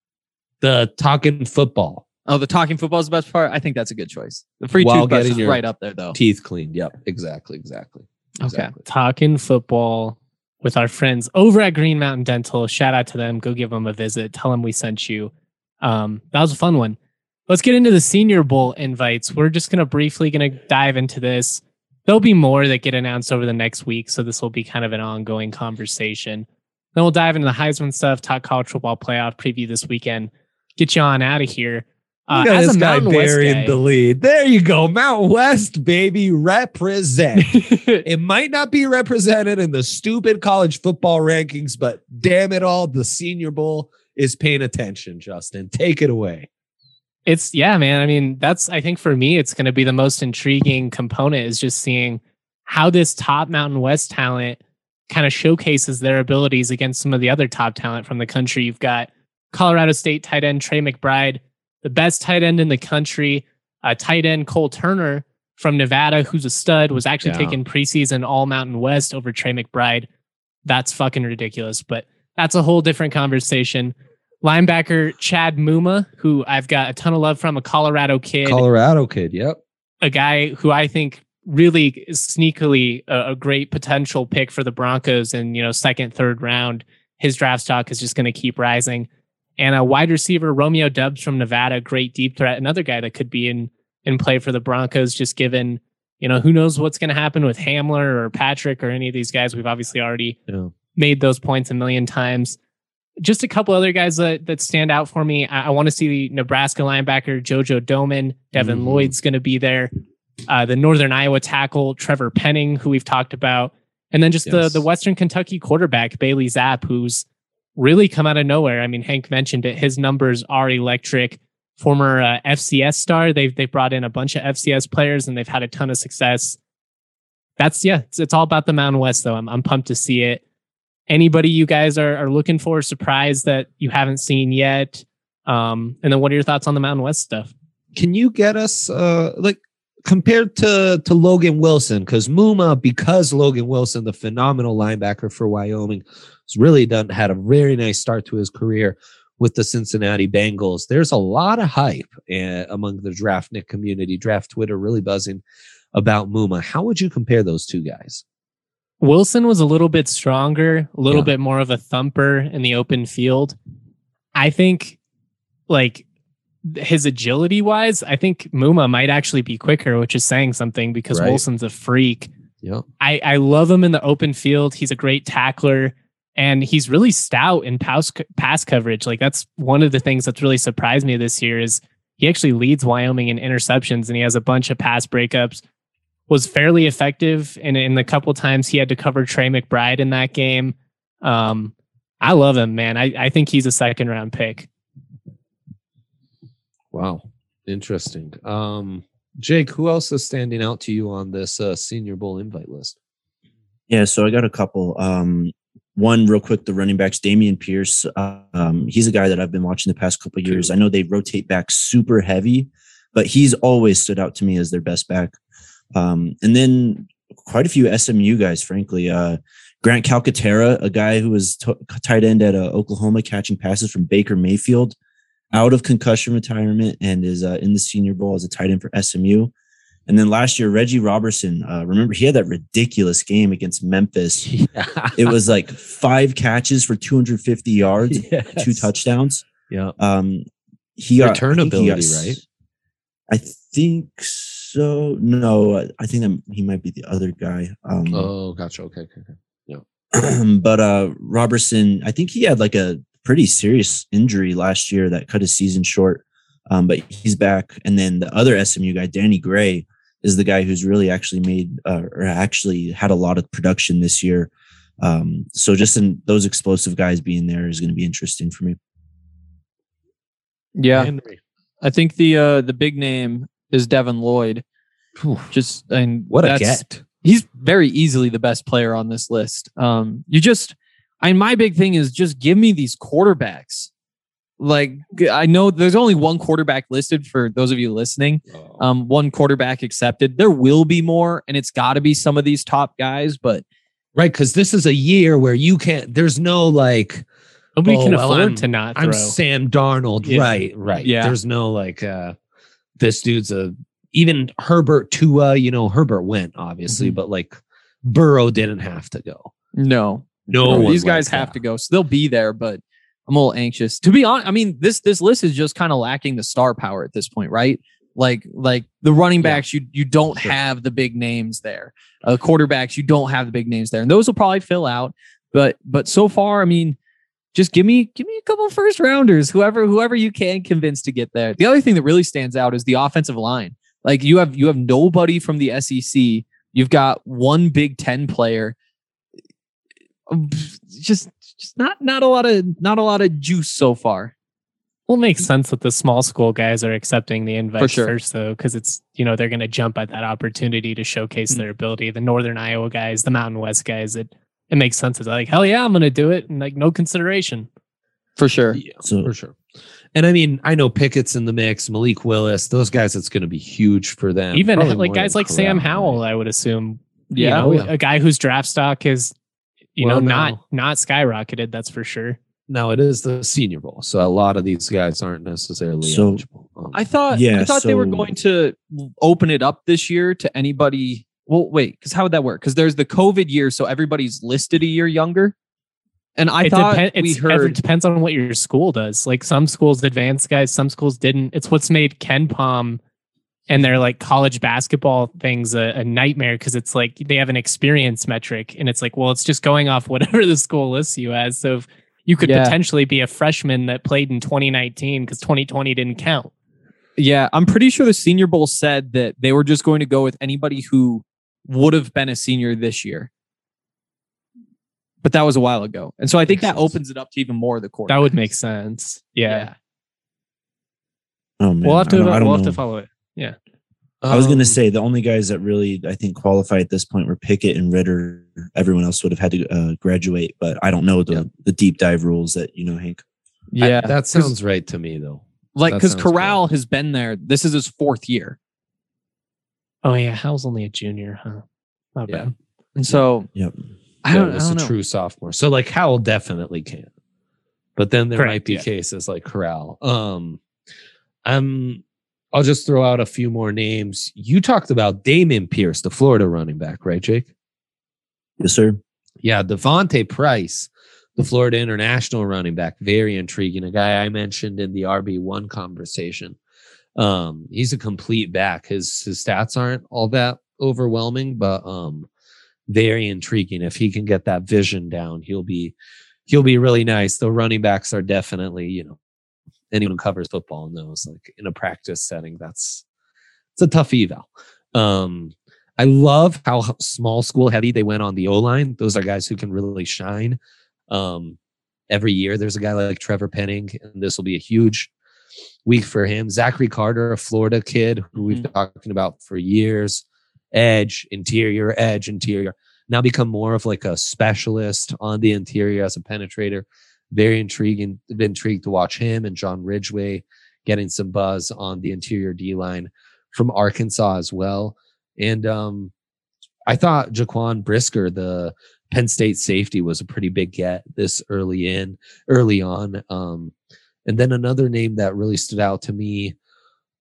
The talking football. Oh, the talking football is the best part. I think that's a good choice. The free While toothbrush getting is your right up there, though. Teeth cleaned. Yep. Exactly. Exactly. Okay. Exactly. Talking football with our friends over at Green Mountain Dental. Shout out to them. Go give them a visit. Tell them we sent you. Um, that was a fun one. Let's get into the Senior Bowl invites. We're just going to briefly going to dive into this. There'll be more that get announced over the next week, so this will be kind of an ongoing conversation. Then we'll dive into the Heisman stuff, talk college football playoff preview this weekend, get you on out of here. Uh, Look at as this a guy Mountain West burying guy, the lead. There you go. Mount West, baby, represent. It might not be represented in the stupid college football rankings, but damn it all, the Senior Bowl is paying attention, Justin. Take it away. It's yeah, man. I mean, that's I think for me, it's going to be the most intriguing component is just seeing how this top Mountain West talent kind of showcases their abilities against some of the other top talent from the country. You've got Colorado State tight end Trey McBride, the best tight end in the country, uh, tight end Cole Turner from Nevada, who's a stud, was actually Yeah. taking preseason All Mountain West over Trey McBride. That's fucking ridiculous, but that's a whole different conversation. Linebacker Chad Muma, who I've got a ton of love from, a Colorado kid, Colorado kid. Yep. a guy who I think really is sneakily a, a great potential pick for the Broncos in, you know, second, third round. His draft stock is just going to keep rising. And a wide receiver, Romeo Dubs from Nevada, great deep threat, another guy that could be in in play for the Broncos, just given, you know, who knows what's going to happen with Hamler or Patrick or any of these guys. We've obviously already Yeah. made those points a million times. Just a couple other guys that, that stand out for me. I, I want to see the Nebraska linebacker, Jojo Doman. Devin Mhm. Lloyd's going to be there. Uh, the Northern Iowa tackle, Trevor Penning, who we've talked about. And then just Yes. the, the Western Kentucky quarterback, Bailey Zapp, who's really come out of nowhere. I mean, Hank mentioned it. His numbers are electric. Former uh, F C S star. They've, they've brought in a bunch of F C S players and they've had a ton of success. That's, yeah, it's, it's all about the Mountain West, though. I'm, I'm pumped to see it. Anybody you guys are, are looking for, surprise that you haven't seen yet? Um, and then what are your thoughts on the Mountain West stuff? Can you get us uh like compared to to Logan Wilson? Because Muma, because Logan Wilson, the phenomenal linebacker for Wyoming, has really done had a very nice start to his career with the Cincinnati Bengals. There's a lot of hype uh, among the Draftnik community, draft Twitter, really buzzing about Muma. How would you compare those two guys? Wilson was a little bit stronger, a little Yeah. bit more of a thumper in the open field. I think, like, his agility wise, I think Muma might actually be quicker, which is saying something because Right. Wilson's a freak. Yeah. I, I love him in the open field. He's a great tackler and he's really stout in pass, pass coverage. Like, that's one of the things that's really surprised me this year is he actually leads Wyoming in interceptions and he has a bunch of pass breakups. Was fairly effective in, in the couple times he had to cover Trey McBride in that game. Um, I love him, man. I, I think he's a second round pick. Wow. Interesting. Um, Jake, who else is standing out to you on this uh, Senior Bowl invite list? Yeah, so I got a couple. Um, one real quick, the running backs, Damian Pierce. Um, he's a guy that I've been watching the past couple of years. I know they rotate back super heavy, but he's always stood out to me as their best back. Um, and then quite a few S M U guys, frankly. Uh, Grant Calcaterra, a guy who was t- tight end at uh, Oklahoma, catching passes from Baker Mayfield, out of concussion retirement and is uh, in the Senior Bowl as a tight end for S M U. And then last year, Reggie Robertson, uh, remember he had that ridiculous game against Memphis. Yeah. It was like five catches for two hundred fifty yards, Yes. two touchdowns. Yeah. Um, he got Return I think he ability, got- right? I think so. No, I- I think that he might be the other guy. Um, Oh, gotcha. Okay, okay, okay. but uh, Robertson, I think he had like a pretty serious injury last year that cut his season short. Um, but he's back. And then the other S M U guy, Danny Gray, is the guy who's really actually made uh, or actually had a lot of production this year. Um, so just in those explosive guys being there is going to be interesting for me. Yeah, Henry. I think the uh, the big name is Devin Lloyd. Whew. Just and What a that's- get. He's very easily the best player on this list. Um, you just, I my big thing is just give me these quarterbacks. Like I know there's only one quarterback listed for those of you listening. Um, one quarterback accepted. There will be more, and it's got to be some of these top guys. But Right, because this is a year where you can't, there's no like, Nobody Oh, can well, afford I'm- to not throw. I'm Sam Darnold. Yeah. Right, right. Yeah. There's no like, uh, this dude's a, even Herbert Tua, you know, Herbert went obviously, Mhm. but like Burrow didn't have to go. no, No, one these guys like have that. to go, so they'll be there. But I'm a little anxious to be honest. I mean, this this list is just kind of lacking the star power at this point, right? Like like the running Yeah. backs, you you don't Sure. have the big names there. Uh, quarterbacks, you don't have the big names there, and those will probably fill out. But but so far, I mean, just give me give me a couple first rounders, whoever whoever you can convince to get there. The other thing that really stands out is the offensive line. Like you have you have nobody from the S E C. You've got one Big Ten player. Um, Just just not not a lot of not a lot of juice so far. Well, it makes sense that the small school guys are accepting the invite For sure. first, though, because it's, you know, they're going to jump at that opportunity to showcase Mm. their ability. The Northern Iowa guys, the Mountain West guys, it it makes sense. It's like, hell yeah, I'm going to do it. And like, no consideration. For sure. Yeah, So- for sure. And I mean, I know Pickett's in the mix, Malik Willis, those guys, it's going to be huge for them. Even Probably like more guys than like Sam Corral, Howell, right? I would assume, Yeah. you know, Oh, yeah. a guy whose draft stock is, you Well, know, now- not not skyrocketed. That's for sure. Now it is the Senior Bowl, so a lot of these guys aren't necessarily So- eligible. Um, I thought Yeah, I thought they were so- going to open it up this year to anybody. Well, wait, because how would that work? Because there's the COVID year, so everybody's listed a year younger. And I it thought depen- we it's- It heard depends on what your school does. Like some schools advanced guys, some schools didn't. It's what's made Ken Palm and their like college basketball things a, a nightmare because it's like they have an experience metric and it's like, well, it's just going off whatever the school lists you as. So if you could Yeah. potentially be a freshman that played in twenty nineteen because twenty twenty didn't count. Yeah, I'm pretty sure the Senior Bowl said that they were just going to go with anybody who would have been a senior this year. But that was a while ago. And so I think Makes that sense. opens it up to even more of the quarterbacks. That would make sense. Yeah. Yeah. Oh man, We'll have I to don't- I don't we'll have know. to follow it. I was going to um, say the only guys that really I think qualify at this point were Pickett and Ritter. Everyone else would have had to uh, graduate, but I don't know the Yeah. the deep dive rules that you know, Hank. I- Yeah. that sounds right to me, though. like that because sounds Corral has been there. This is his fourth year. Oh yeah, Hal's only a junior, huh? Not Yeah. bad. And so Yep. I Yeah, don't, it I was don't a know. true sophomore. So like Howell definitely can. But then there Correct, might be yeah. cases like Corral. Um I'm I'll just throw out a few more names. You talked about Damon Pierce, the Florida running back, right, Jake? Yes, sir. Yeah, Devontae Price, the Florida International running back, very intriguing. A guy I mentioned in the R B one conversation. Um, he's a complete back. His his stats aren't all that overwhelming, but um, very intriguing. If he can get that vision down, he'll be he'll be really nice. The running backs are definitely, you know, anyone who covers football knows, like in a practice setting, that's it's a tough eval. Um, I love how h- small school heavy they went on the O line. Those are guys who can really shine. Um, every year there's a guy like Trevor Penning, and this will be a huge week for him. Zachary Carter, a Florida kid who we've been talking about for years. Edge, interior, edge, interior. Now become more of like a specialist on the interior as a penetrator. Very intriguing. Been intrigued to watch him and John Ridgway getting some buzz on the interior D line from Arkansas as well. And um, I thought Jaquan Brisker, the Penn State safety, was a pretty big get this early in, early on. Um, and then another name that really stood out to me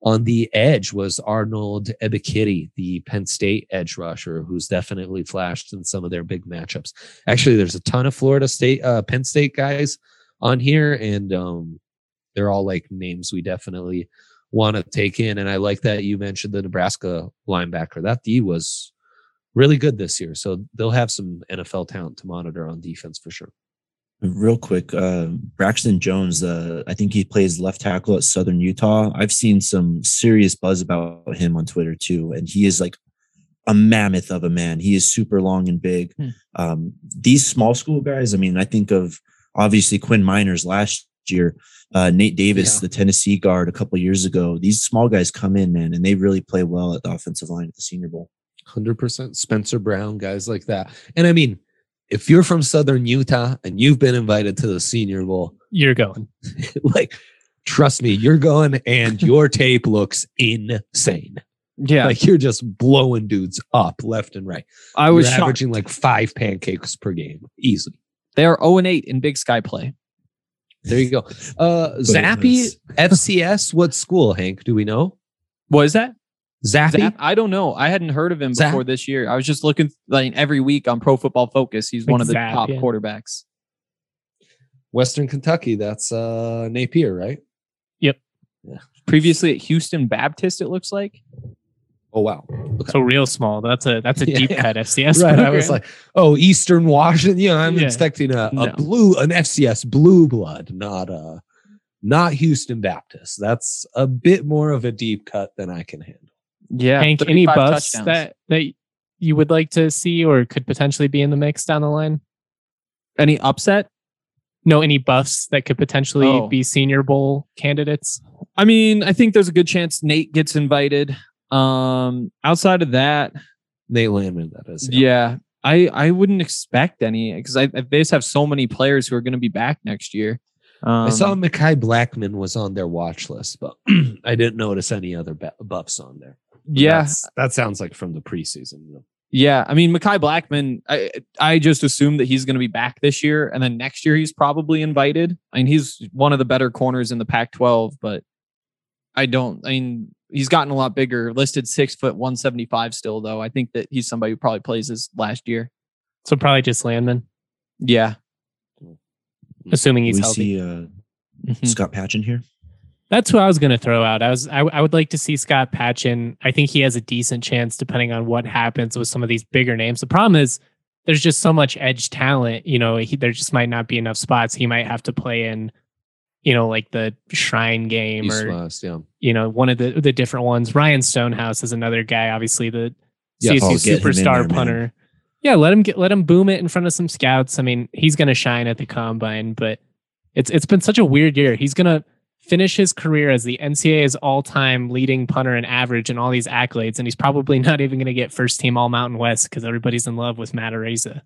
On the edge was Arnold Ebikidi, the Penn State edge rusher, who's definitely flashed in some of their big matchups. Actually, there's a ton of Florida State, uh, Penn State guys on here, and um, they're all like names we definitely want to take in. And I like that you mentioned the Nebraska linebacker. That D was really good this year, so they'll have some N F L talent to monitor on defense for sure. Real quick, uh, Braxton Jones, uh, I think he plays left tackle at Southern Utah. I've seen some serious buzz about him on Twitter too, and he is like a mammoth of a man. He is super long and big. Hmm. Um, these small school guys, I mean, I think of obviously Quinn Miners last year, uh, Nate Davis, yeah. the Tennessee guard a couple of years ago. These small guys come in, man, and they really play well at the offensive line at the Senior Bowl. one hundred percent Spencer Brown, guys like that. And I mean, if you're from Southern Utah and you've been invited to the Senior Bowl, you're going. Like, trust me, you're going, and your tape looks insane. Yeah, like you're just blowing dudes up left and right. I was you're shocked. averaging like five pancakes per game, easily. They are zero and eight in Big Sky play. There you go. Uh, Zappy F C S. What school, Hank? Do we know? What is that? Zappy? Zap? I don't know. I hadn't heard of him Zap? before this year. I was just looking like every week on Pro Football Focus. He's like one of the Zap, top yeah. quarterbacks. Western Kentucky. That's uh, Napier, right? Yep. Yeah. Previously at Houston Baptist, it looks like. Oh wow. Okay. So real small. That's a that's a Yeah, deep yeah. cut F C S. Right. program. I was like, oh, Eastern Washington. Yeah, I'm Yeah. expecting a, a No. blue, an F C S blue blood, not a, not Houston Baptist. That's a bit more of a deep cut than I can handle. Yeah. Hank, any thirty-five buffs touchdowns. that that you would like to see or could potentially be in the mix down the line? Any upset? No, any buffs that could potentially Oh. be Senior Bowl candidates? I mean, I think there's a good chance Nate gets invited. Um, outside of that, Nate Landman, that is. yeah, I I wouldn't expect any because I, I they just have so many players who are going to be back next year. Um, I saw Mekhi Blackman was on their watch list, but I didn't notice any other bu- buffs on there. But yeah, that's- that sounds like from the preseason. You know? yeah. I mean, Mekhi Blackman. I I just assume that he's going to be back this year, and then next year he's probably invited. I mean, he's one of the better corners in the Pac twelve, but I don't. I mean, he's gotten a lot bigger. Listed six foot one seventy five still, though. I think that he's somebody who probably plays his last year. So probably just Landman, Yeah. assuming he's we healthy. see uh, Mhm. Scott Patchen here. That's who I was going to throw out. I was I, I would like to see Scott Patchen. I think he has a decent chance depending on what happens with some of these bigger names. The problem is there's just so much edge talent. You know, he, there just might not be enough spots. He might have to play in, you know, like the Shrine game East or West, yeah. you know one of the the different ones. Ryan Stonehouse is another guy. Obviously, the Yeah, C S U I'll get him in superstar there, man. punter. Yeah, let him get let him boom it in front of some scouts. I mean, he's going to shine at the combine, but it's it's been such a weird year. He's going to finish his career as the N C double A's all-time leading punter in average and all these accolades, and he's probably not even going to get first team All Mountain West because everybody's in love with Matt Araiza.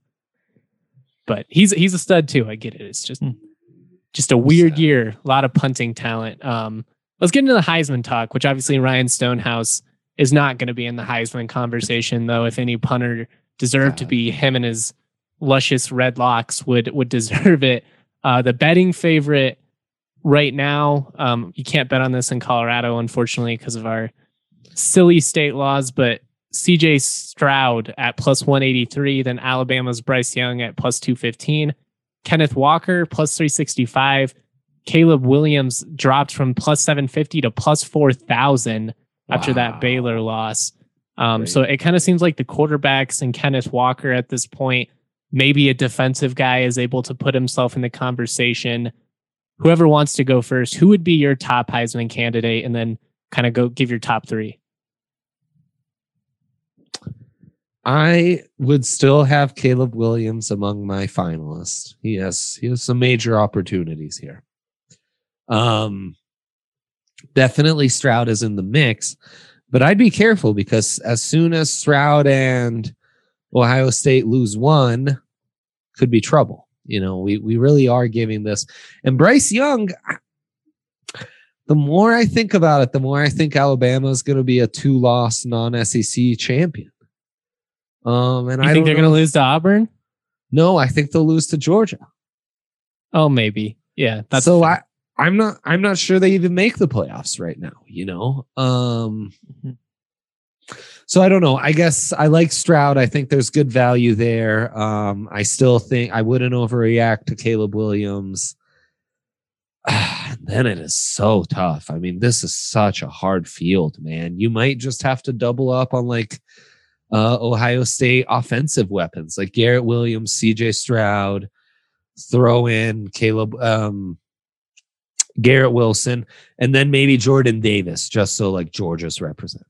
But he's he's a stud too. I get it. It's just just a weird Sad. year. A lot of punting talent. Um, let's get into the Heisman talk, which obviously Ryan Stonehouse is not going to be in the Heisman conversation, though. If any punter deserved to be, him and his luscious red locks would would deserve it. Uh, the betting favorite right now, um, you can't bet on this in Colorado, unfortunately, because of our silly state laws, but C J Stroud at plus one eighty-three, then Alabama's Bryce Young at plus two fifteen, Kenneth Walker plus three sixty-five, Caleb Williams dropped from plus seven fifty to plus four thousand after Wow. that Baylor loss. Um, Great. so it kind of seems like the quarterbacks and Kenneth Walker at this point, maybe a defensive guy is able to put himself in the conversation. Whoever wants to go first, who would be your top Heisman candidate? And then kind of go give your top three. I would still have Caleb Williams among my finalists. He has he has some major opportunities here. Um, definitely Stroud is in the mix, but I'd be careful because as soon as Stroud and Ohio State lose one, could be trouble. You know, we we really are giving this. And Bryce Young, the more I think about it, the more I think Alabama is going to be a two-loss non-S E C champion. Um, and You I think don't they're know- going to lose to Auburn? No, I think they'll lose to Georgia. Oh, maybe. Yeah. That's so fair. I, I'm not I'm not sure they even make the playoffs right now, you know. Um so I don't know. I guess I like Stroud. I think there's good value there. Um I still think I wouldn't overreact to Caleb Williams. Then it is so tough. I mean, this is such a hard field, man. You might just have to double up on like uh Ohio State offensive weapons like Garrett Williams, C J Stroud, throw in Caleb um Garrett Wilson, and then maybe Jordan Davis, just so like Georgia's represented.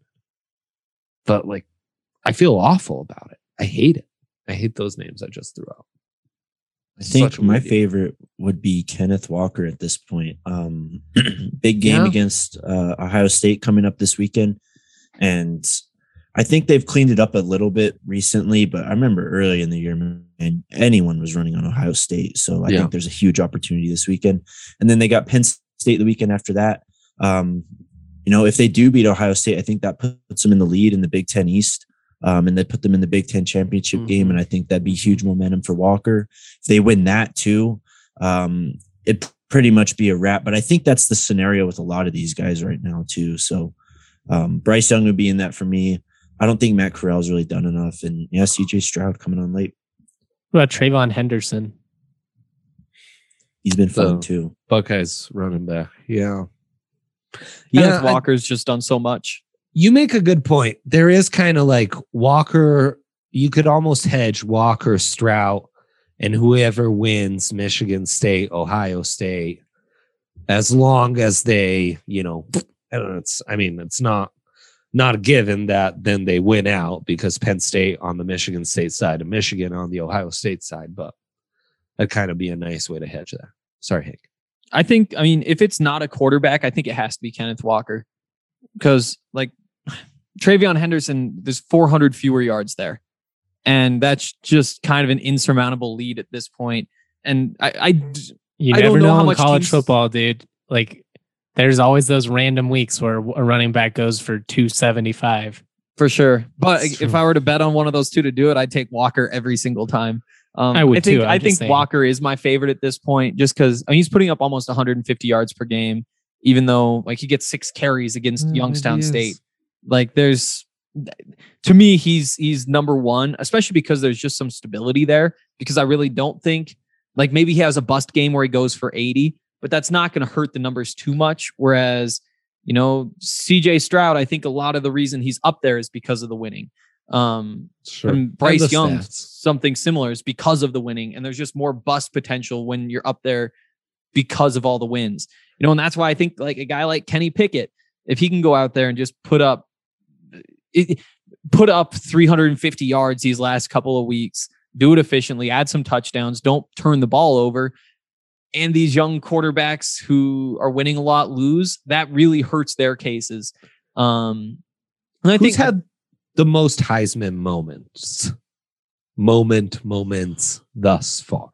But like, I feel awful about it. I hate it. I hate those names I just threw out. I think my favorite would be Kenneth Walker at this point. Um, big game yeah. against uh, Ohio State coming up this weekend. And I think they've cleaned it up a little bit recently, but I remember early in the year, and anyone was running on Ohio State. So I yeah. think there's a huge opportunity this weekend. And then they got Penn State the weekend after that. Um, you know, if they do beat Ohio State, I think that puts them in the lead in the Big Ten East. Um, and they put them in the Big Ten championship mm-hmm. game. And I think that'd be huge momentum for Walker. If they win that too, um, it'd pretty much be a wrap. But I think that's the scenario with a lot of these guys right now too. So um, Bryce Young would be in that for me. I don't think Matt Corral's really done enough. And yeah, C J Stroud coming on late. What about Trayvon Henderson? He's been fun the too. Buckeyes running back. Yeah. Yeah. Walker's I, just done so much. You make a good point. There is kind of like Walker. You could almost hedge Walker, Stroud, and whoever wins Michigan State, Ohio State, as long as they, you know, I don't know. It's, I mean, it's not, not a given that then they win out because Penn State on the Michigan State side and Michigan on the Ohio State side, but that'd kind of be a nice way to hedge that. Sorry, Hank. I think, I mean, if it's not a quarterback, I think it has to be Kenneth Walker because like Travion Henderson, there's four hundred fewer yards there. And that's just kind of an insurmountable lead at this point. And I, I, you I never don't know, know how in much college teams, football, dude. Like, there's always those random weeks where a running back goes for two seventy-five. For sure. But if I were to bet on one of those two to do it, I'd take Walker every single time. Um, I would I think, too. I'm I think saying. Walker is my favorite at this point just because I mean, he's putting up almost one hundred fifty yards per game, even though like he gets six carries against Oh, Youngstown he is. State. Like there's, to me, he's he's number one, especially because there's just some stability there. Because I really don't think like maybe he has a bust game where he goes for eighty, but that's not going to hurt the numbers too much. Whereas, you know, C J Stroud, I think a lot of the reason he's up there is because of the winning. Um, Sure. and Bryce And the Young, stats. something similar is because of the winning. And there's just more bust potential when you're up there because of all the wins. You know, and that's why I think like a guy like Kenny Pickett, if he can go out there and just put up it, put up three hundred fifty yards these last couple of weeks, do it efficiently, add some touchdowns, don't turn the ball over. And these young quarterbacks who are winning a lot lose, that really hurts their cases. Um, and I Who's think had the most Heisman moments, moment, moments thus far?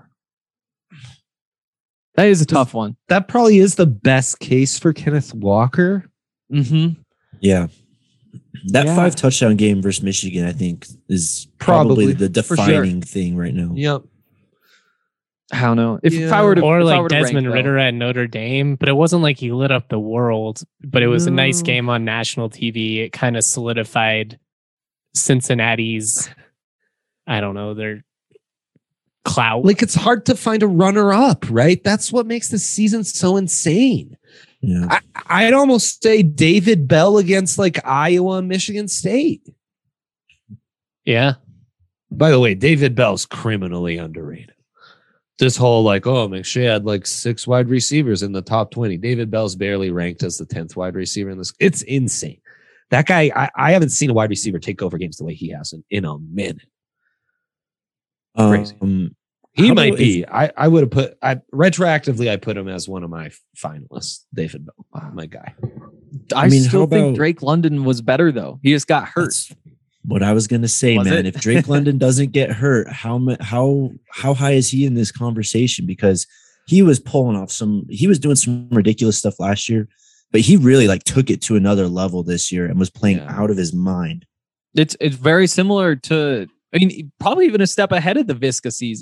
that is a tough one. That probably is the best case for Kenneth Walker. Mm-hmm. Yeah. That Yeah. five touchdown game versus Michigan, I think, is Probably, probably, the for sure. defining thing right now. Yep. I don't know. If, if Yeah. I were to Or if I like were to rank, Desmond though, Ritter at Notre Dame, but it wasn't like he lit up the world, but it was a nice No. game on national T V. It kind of solidified Cincinnati's, I don't know, their clout. Like it's hard to find a runner up, right? That's what makes this season so insane. Yeah. I, I'd almost say David Bell against like Iowa and Michigan State. Yeah. By the way, David Bell's criminally underrated. This whole like, oh, McShay had like six wide receivers in the top twenty. David Bell's barely ranked as the tenth wide receiver in this. It's insane. That guy, I, I haven't seen a wide receiver take over games the way he has in, in a minute. Crazy. Um, He How might about be. I, I would have put I retroactively I put him as one of my finalists. David Bell, my guy. I, I mean, still how think about- Drake London was better though. He just got hurt. That's what I was gonna say, Was man. it? If Drake London doesn't get hurt, how mu- how how high is he in this conversation? Because he was pulling off some, he was doing some ridiculous stuff last year, but he really like took it to another level this year and was playing Yeah. out of his mind. It's it's very similar to. I mean, probably even a step ahead of the Visca season.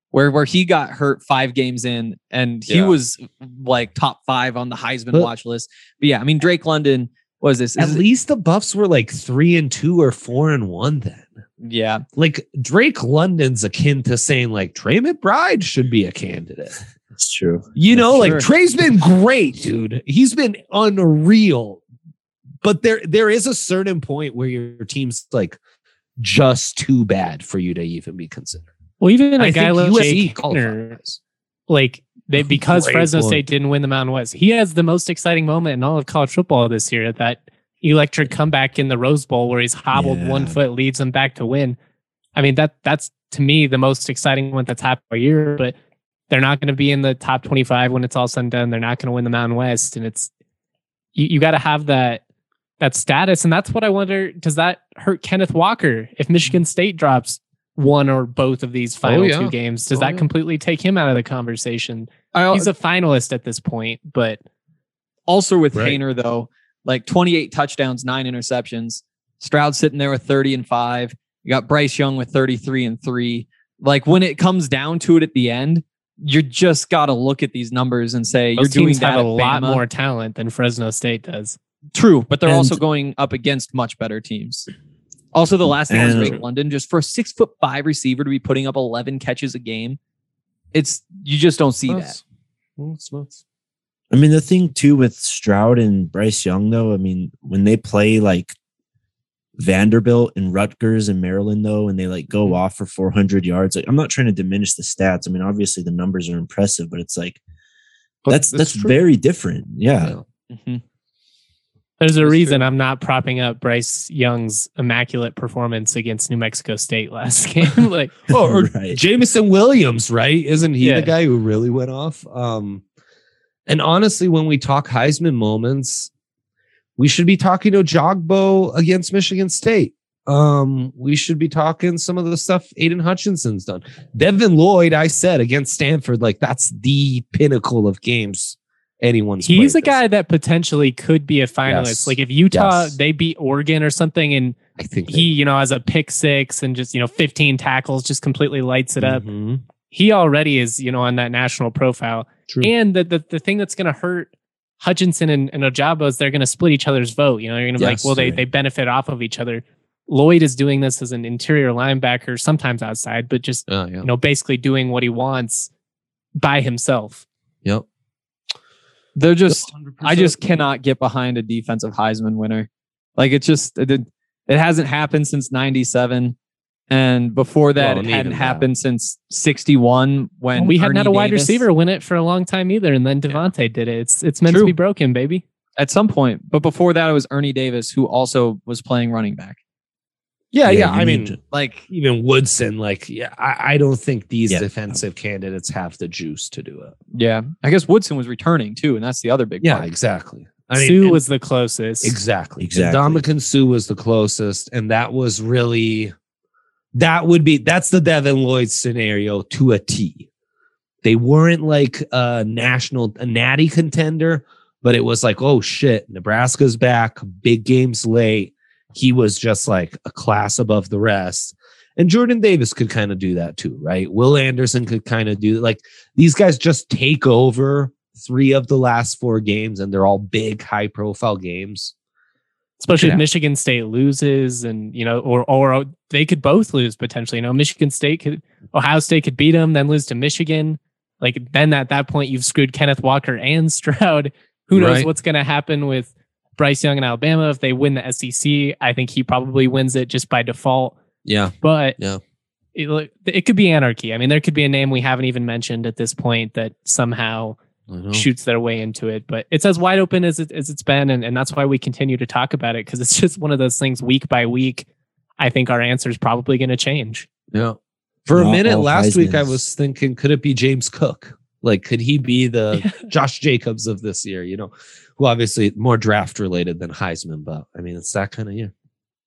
where where he got hurt five games in, and he Yeah. was like top five on the Heisman But- watch list. But yeah, I mean Drake London was this. At is it- least the Buffs were like three and two or four and one then. yeah, Like Drake London's akin to saying like Trey McBride should be a candidate. It's true. You know, Sure. like Trey's been great, dude. He's been unreal. But there there is a certain point where your team's like just too bad for you to even be considered. Well, even a I guy think like U S C Jake Gardner, qualifies. like they, because Great Fresno point. State didn't win the Mountain West, he has the most exciting moment in all of college football this year. That electric comeback in the Rose Bowl where he's hobbled Yeah. one foot, leads them back to win. I mean, that that's to me the most exciting one that's happened all year. But they're not going to be in the top twenty-five when it's all said and done. They're not going to win the Mountain West, and it's you, you got to have that that status, and that's what I wonder. Does that hurt Kenneth Walker if Michigan State drops one or both of these final yeah. two games? Does Oh, that yeah. completely take him out of the conversation? I, He's a finalist at this point, but also with Right. Hayner though, like twenty-eight touchdowns, nine interceptions. Stroud sitting there with thirty and five. You got Bryce Young with thirty-three and three. Like when it comes down to it at the end, you just got to look at these numbers and say those you're doing teams that have a at lot Bama. more talent than Fresno State does. True, but they're And- also going up against much better teams. Also, the last thing was And- Drake London, just for a six foot five receiver to be putting up eleven catches a game. It's you just don't see that. Nuts. Well, it's nuts. I mean, the thing too with Stroud and Bryce Young, though, I mean, when they play like Vanderbilt and Rutgers and Maryland, though, and they like go off for four hundred yards, like I'm not trying to diminish the stats. I mean, obviously the numbers are impressive, but it's like But that's that's, true. very different. Yeah. Yeah. Mhm. There's a That's reason true. I'm not propping up Bryce Young's immaculate performance against New Mexico State last game. Like, Oh, or Right. Jameson Williams, right? Isn't he Yeah. the guy who really went off? Um, and honestly, when we talk Heisman moments, we should be talking to Jogbo against Michigan State. Um, we should be talking some of the stuff Aiden Hutchinson's done. Devin Lloyd, I said against Stanford, like that's the pinnacle of games anyone's. he's a played this. guy that potentially could be a finalist. Yes. Like if Utah Yes. they beat Oregon or something, and I think he, you know, has a pick six and just you know fifteen tackles, just completely lights it up. Mhm. He already is, you know, on that national profile. True. And the the, the thing that's going to hurt Hutchinson and, and Ojabo is they're going to split each other's vote. You know, you're going to be Yes, like, well, they right. they benefit off of each other. Lloyd is doing this as an interior linebacker, sometimes outside, but just Oh, yeah. you know, basically doing what he wants by himself. Yep. They're just one hundred I percent. just cannot get behind a defensive Heisman winner. Like it's just it, did- it hasn't happened since ninety-seven. And before that, Well, and it hadn't even happened since sixty-one when we hadn't Ernie had a wide Davis- receiver win it for a long time either, and then Devontae did it. It's it's meant True. to be broken, baby. at some point. But before that, it was Ernie Davis, who also was playing running back. Yeah, yeah. you I need mean, to- like even Woodson, like yeah, I, I don't think these Yeah. defensive candidates have the juice to do it. Yeah. I guess Woodson was returning too, and that's the other big Yeah, part. exactly. I mean, Sue and- was the closest. exactly Exactly. Dominican Sue was the closest, and that was really that would be that's the Devin Lloyd scenario to a T. They weren't like a national a natty contender, but it was like, oh shit, Nebraska's back, big games late. He was just like a class above the rest. And Jordan Davis could kind of do that too, right? Will Anderson could kind of do like these guys just take over three of the last four games, and they're all big, high profile games. Especially Yeah. if Michigan State loses, and you know, or or they could both lose potentially. You know, Michigan State could, Ohio State could beat them, then lose to Michigan. Like then at that point, you've screwed Kenneth Walker and Stroud. Who knows Right. what's going to happen with Bryce Young in Alabama if they win the S E C? I think he probably wins it just by default. Yeah. But Yeah. it, look- it could be anarchy. I mean, there could be a name we haven't even mentioned at this point that somehow shoots their way into it. But it's as wide open as, it, as it's been. And, and that's why we continue to talk about it, because it's just one of those things week by week. I think our answer is probably going to change. Yeah. For a Not minute all last week, I Heismans. was thinking, could it be James Cook? Like, could he be the Josh Jacobs of this year? You know, who obviously more draft related than Heisman, but I mean, it's that kind of year.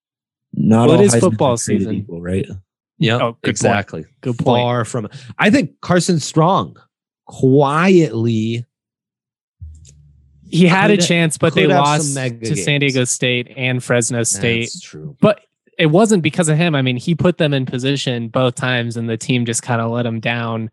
Not Well, it all is Heisman football are created season. equal, right? Yeah, Oh, good point. exactly. Good point. Far from. I think Carson Strong quietly. He had a Could- chance, but they could have some lost mega to San games. Diego State and Fresno State. That's true. But it wasn't because of him. I mean, he put them in position both times and the team just kind of let them down.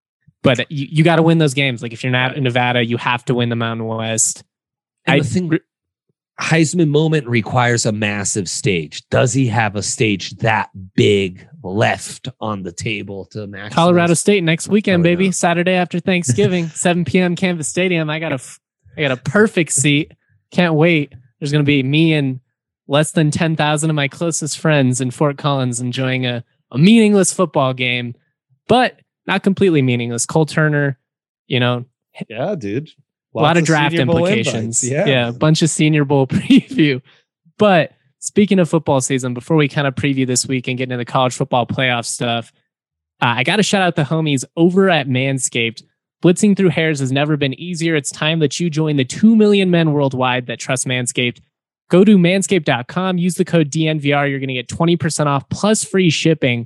But you, you got to win those games. Like if you're not in Nevada, you have to win the Mountain West. And I the thing, Heisman moment requires a massive stage. Does he have a stage that big left on the table to maximize? Colorado State next weekend, Probably baby. not. Saturday after Thanksgiving, seven p.m. Canvas Stadium. I got a, I got a perfect seat. Can't wait. There's going to be me and less than ten thousand of my closest friends in Fort Collins enjoying a, a meaningless football game, but not completely meaningless. Cole Turner, you know, Yeah, dude. a lot of draft Senior Bowl implications. invites. Yeah. yeah, a bunch of Senior Bowl preview. But speaking of football season, before we kind of preview this week and get into the college football playoff stuff, uh, I got to shout out the homies over at Manscaped. Blitzing through hairs has never been easier. It's time that you join the two million men worldwide that trust Manscaped. Go to manscaped dot com, use the code D N V R. You're going to get twenty percent off plus free shipping.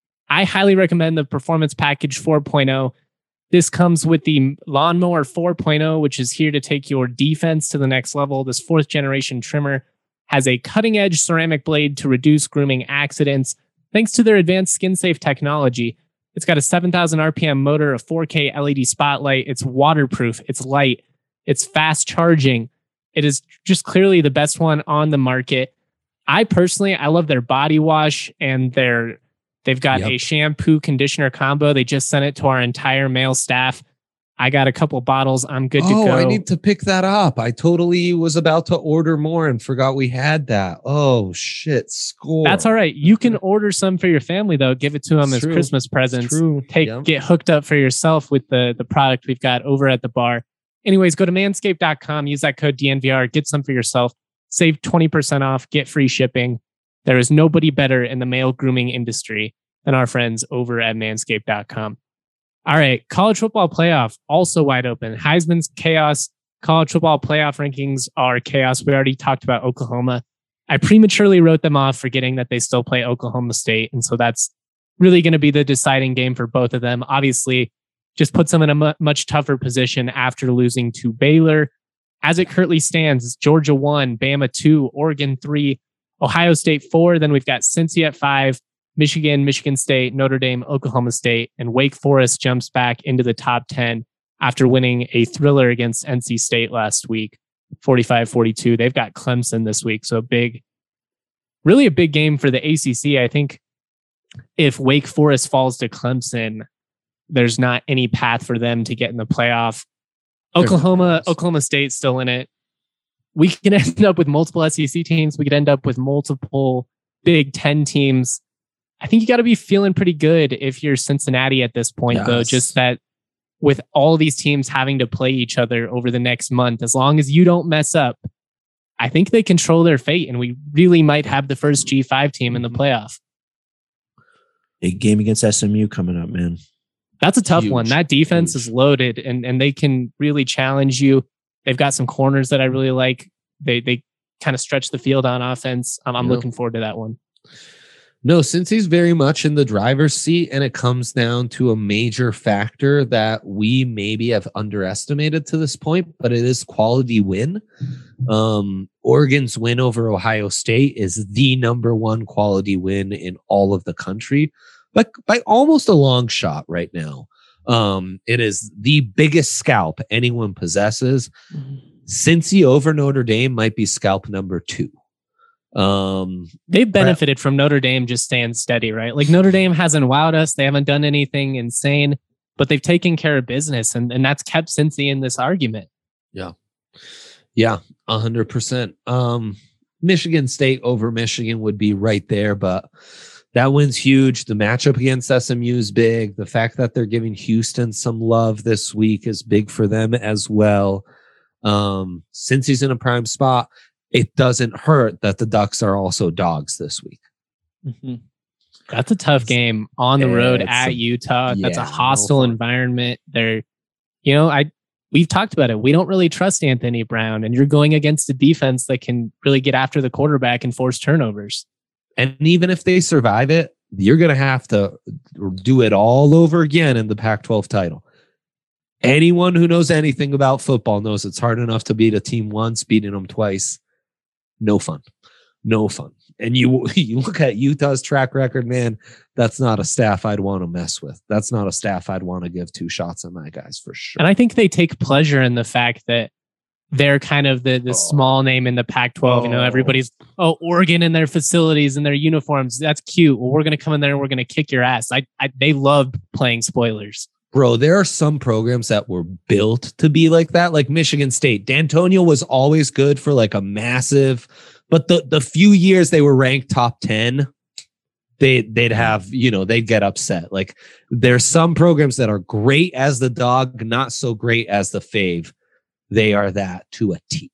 I highly recommend the Performance Package four point oh. This comes with the Lawnmower four point oh, which is here to take your defense to the next level. This fourth generation trimmer has a cutting edge ceramic blade to reduce grooming accidents. Thanks to their advanced skin safe technology, it's got a seven thousand R P M motor, a four K L E D spotlight. It's waterproof. It's light. It's fast charging. It is just clearly the best one on the market. I personally, I love their body wash and their They've got yep. a shampoo conditioner combo. They just sent it to our entire male staff. I got a couple bottles. I'm good to oh, go. I need to pick that up. I totally was about to order more and forgot we had that. Oh, shit. Score. That's all right. You can order some for your family, though. Give it to them it's as true. Christmas presents. It's true. Take yep. Get hooked up for yourself with the, the product we've got over at the bar. Anyways, go to manscaped dot com. Use that code D N V R. Get some for yourself. Save twenty percent off. Get free shipping. There is nobody better in the male grooming industry than our friends over at manscaped dot com. All right, college football playoff also wide open. Heisman's chaos. College football playoff rankings are chaos. We already talked about Oklahoma. I prematurely wrote them off, forgetting that they still play Oklahoma State. And so that's really going to be the deciding game for both of them. Obviously, just puts them in a mu- much tougher position after losing to Baylor. As it currently stands, it's Georgia one, Bama two, Oregon three, Ohio State four. Then we've got Cincy at five, Michigan, Michigan State, Notre Dame, Oklahoma State, and Wake Forest jumps back into the top ten after winning a thriller against N C State last week, forty-five forty-two. They've got Clemson this week, so big, really a big game for the A C C. I think if Wake Forest falls to Clemson, there's not any path for them to get in the playoff. Oklahoma, Oklahoma State's still in it. We can end up with multiple S E C teams. We could end up with multiple Big Ten teams. I think you got to be feeling pretty good if you're Cincinnati at this point, yes. though. Just that with all these teams having to play each other over the next month, as long as you don't mess up, I think they control their fate, and we really might have the first G five team in the playoff. Big game against S M U coming up, man. That's a tough Huge. one. That defense Huge. is loaded, and, and they can really challenge you. They've got some corners that I really like. They they kind of stretch the field on offense. I'm, I'm yeah. looking forward to that one. No, since he's very much in the driver's seat, and it comes down to a major factor that we maybe have underestimated to this point, but it is quality win. Um, Oregon's win over Ohio State is the number one quality win in all of the country, but by almost a long shot right now. Um, it is the biggest scalp anyone possesses. Mm-hmm. Cincy over Notre Dame might be scalp number two. Um, They've benefited from Notre Dame just staying steady, right? Like Notre Dame hasn't wowed us. They haven't done anything insane, but they've taken care of business, and, and that's kept Cincy in this argument. Yeah. Yeah, one hundred percent. Um, Michigan State over Michigan would be right there, but that win's huge. The matchup against S M U is big. The fact that they're giving Houston some love this week is big for them as well. Um, since he's in a prime spot, it doesn't hurt that the Ducks are also dogs this week. Mm-hmm. That's a tough game on the road it's at a, Utah. yeah, That's a hostile no environment. They're, you know, I we've talked about it. We don't really trust Anthony Brown, and you're going against a defense that can really get after the quarterback and force turnovers. And even if they survive it, you're going to have to do it all over again in the Pac twelve title. Anyone who knows anything about football knows it's hard enough to beat a team once, beating them twice. No fun. no fun. And you you look at Utah's track record, man, that's not a staff I'd want to mess with. That's not a staff I'd want to give two shots on my guys for sure. And I think they take pleasure in the fact that they're kind of the the oh. small name in the Pac twelve. Oh. You know, everybody's, oh, Oregon in their facilities and their uniforms. That's cute. Well, we're going to come in there and we're going to kick your ass. I, I They love playing spoilers. Bro, there are some programs that were built to be like that, like Michigan State. D'Antonio was always good for like a massive, but the, the few years they were ranked top ten, they, they'd have, you know, they'd get upset. Like there's some programs that are great as the dog, not so great as the fave. They are that to a T.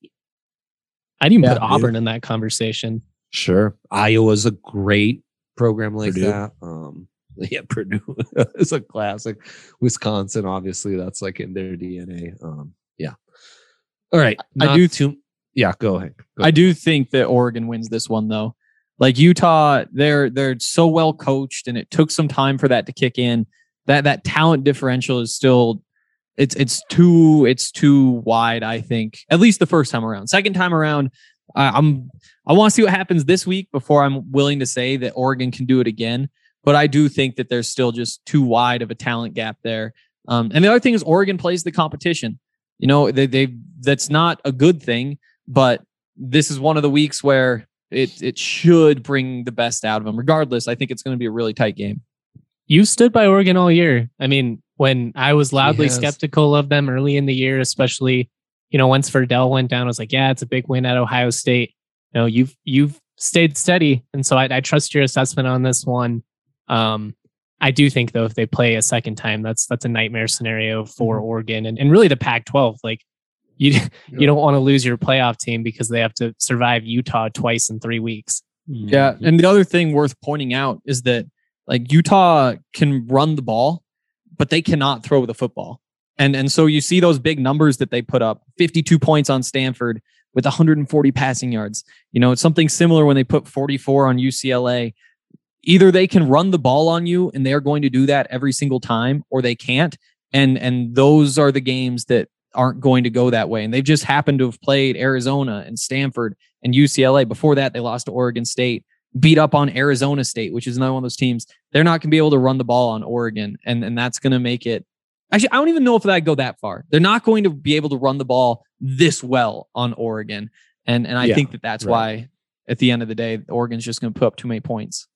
I'd even yeah, put Auburn dude. in that conversation. Sure. Iowa's a great program like Purdue. that. Um, Yeah, Purdue is a classic. Wisconsin, obviously, that's like in their D N A. Um, yeah. All right. I do too. Yeah, go ahead. Go I ahead. do think that Oregon wins this one, though. Like Utah, they're they're so well coached, and it took some time for that to kick in. That that talent differential is still it's it's too it's too wide. I think at least the first time around. Second time around, uh, I'm I want to see what happens this week before I'm willing to say that Oregon can do it again. But I do think that there's still just too wide of a talent gap there. Um, and the other thing is Oregon plays the competition. You know, they they that's not a good thing, but this is one of the weeks where it it should bring the best out of them. Regardless, I think it's going to be a really tight game. You stood by Oregon all year. I mean, when I was loudly skeptical of them early in the year, especially, you know, once Verdell went down, I was like, yeah, it's a big win at Ohio State. You know, you've you've stayed steady. And so I, I trust your assessment on this one. Um, I do think, though, if they play a second time, that's that's a nightmare scenario for mm-hmm. Oregon and, and really the Pac twelve. Like you, yeah. you don't want to lose your playoff team because they have to survive Utah twice in three weeks. Yeah, and the other thing worth pointing out is that like Utah can run the ball, but they cannot throw the football. And and so you see those big numbers that they put up: fifty-two points on Stanford with one hundred forty passing yards. You know, it's something similar when they put forty-four on U C L A. Either they can run the ball on you and they're going to do that every single time, or they can't. And and those are the games that aren't going to go that way. And they've just happened to have played Arizona and Stanford and U C L A. Before that, they lost to Oregon State, beat up on Arizona State, which is another one of those teams. They're not going to be able to run the ball on Oregon. And, and that's going to make it... Actually, I don't even know if that go that far. They're not going to be able to run the ball this well on Oregon. And, and I yeah, think that that's right. why, at the end of the day, Oregon's just going to put up too many points.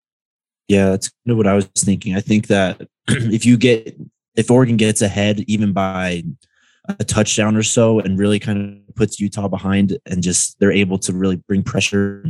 Yeah, that's kind of what I was thinking. I think that if you get, if Oregon gets ahead even by a touchdown or so and really kind of puts Utah behind and just they're able to really bring pressure,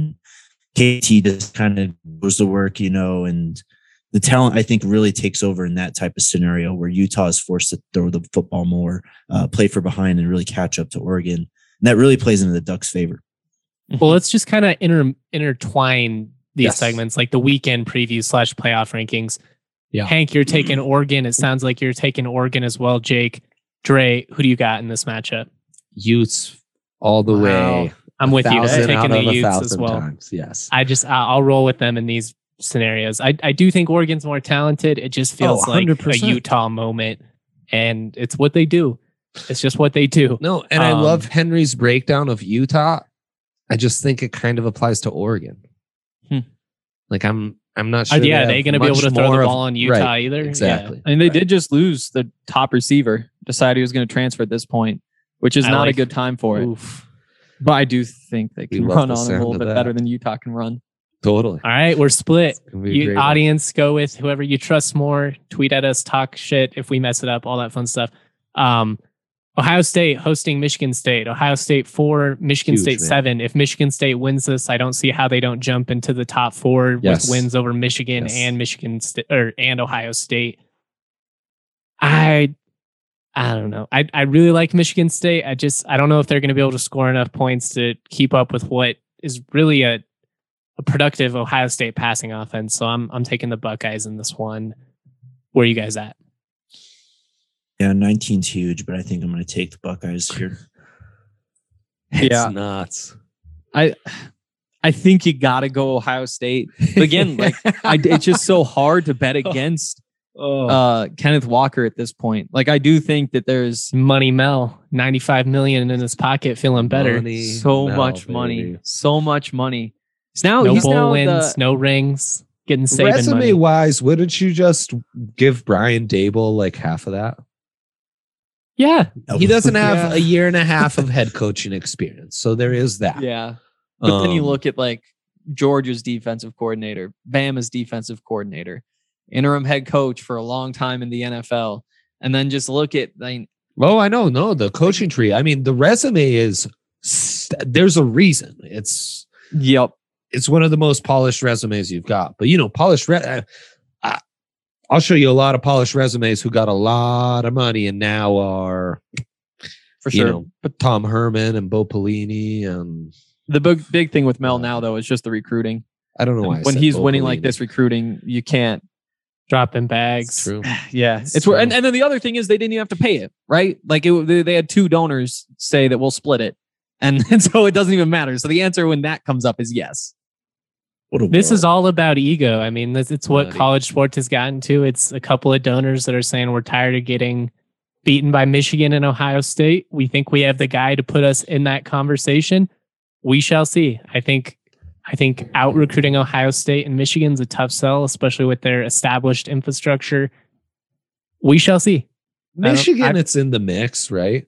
K T just kind of goes to work, you know, and the talent I think really takes over in that type of scenario where Utah is forced to throw the football more, uh, play for behind and really catch up to Oregon. And that really plays into the Ducks' favor. Well, let's just kind of inter- intertwine these yes. segments, like the weekend preview slash playoff rankings. Yeah. Hank, you're taking Oregon. It sounds like you're taking Oregon as well. Jake, Dre, who do you got in this matchup? Utes all the wow. way. I'm with you. I'm taking the Utes as well. Times. Yes. I just, I'll roll with them in these scenarios. I, I do think Oregon's more talented. It just feels oh, like a Utah moment, and it's what they do. It's just what they do. No, and um, I love Henry's breakdown of Utah. I just think it kind of applies to Oregon. Hmm. Like I'm, I'm not sure. Uh, yeah, they they're going to be able to throw the ball on Utah right, either. Exactly. Yeah. I mean, they right. did just lose the top receiver. Decided he was going to transfer at this point, which is I not like, a good time for it. Oof. But I do think they can run on a little bit that. better than Utah can run. Totally. All right, we're split. You, audience, one. go with whoever you trust more. Tweet at us, talk shit if we mess it up, all that fun stuff. Um, Ohio State hosting Michigan State. Ohio State four, Michigan Huge, State man. seven. If Michigan State wins this, I don't see how they don't jump into the top four yes. with wins over Michigan yes. and Michigan State or and Ohio State. I I don't know. I I really like Michigan State. I just I don't know if they're going to be able to score enough points to keep up with what is really a a productive Ohio State passing offense. So I'm I'm taking the Buckeyes in this one. Where are you guys at? Yeah, nineteen's huge, but I think I'm going to take the Buckeyes here. It's yeah. nuts. I I think you got to go Ohio State. But again, like I, it's just so hard to bet against oh. uh, Kenneth Walker at this point. Like I do think that there's Money Mel, ninety-five million in his pocket, feeling better. Money so Mel, much baby. money, so much money. He's now no he's bowl now wins, the, no rings, getting Saban Resume money. wise, wouldn't you just give Brian Dable like half of that? Yeah, He doesn't have Yeah. a year and a half of head coaching experience, so there is that. yeah. But then you Um, look at like Georgia's defensive coordinator, Bama's defensive coordinator, interim head coach for a long time in the N F L, and then just look at like, Oh, I know. No, the coaching tree. I mean, the resume is. St- there's a reason. It's yep. it's one of the most polished resumes you've got. But you know, polished. Re- I, I, I'll show you a lot of polished resumes who got a lot of money and now are For you sure. know, but Tom Herman and Bo Pelini and The big big thing with Mel now though is just the recruiting. I don't know why I When said he's Bo winning like Pelini. this recruiting, you can't. dropping It's bags. true. Yeah, It's it's, where, and, true. and then the other thing is they didn't even have to pay it, right? Like it, they, they had two donors say that we'll split it, and, and so it doesn't even matter. So the answer when that comes up is yes. What a This world. is all about ego. I mean, this, it's what Bloody. college sports has gotten to. It's a couple of donors that are saying we're tired of getting beaten by Michigan and Ohio State. We think we have the guy to put us in that conversation. We shall see. I think I think out recruiting Ohio State and Michigan's a tough sell, especially with their established infrastructure. We shall see. I don't- Michigan, I- it's in the mix, right?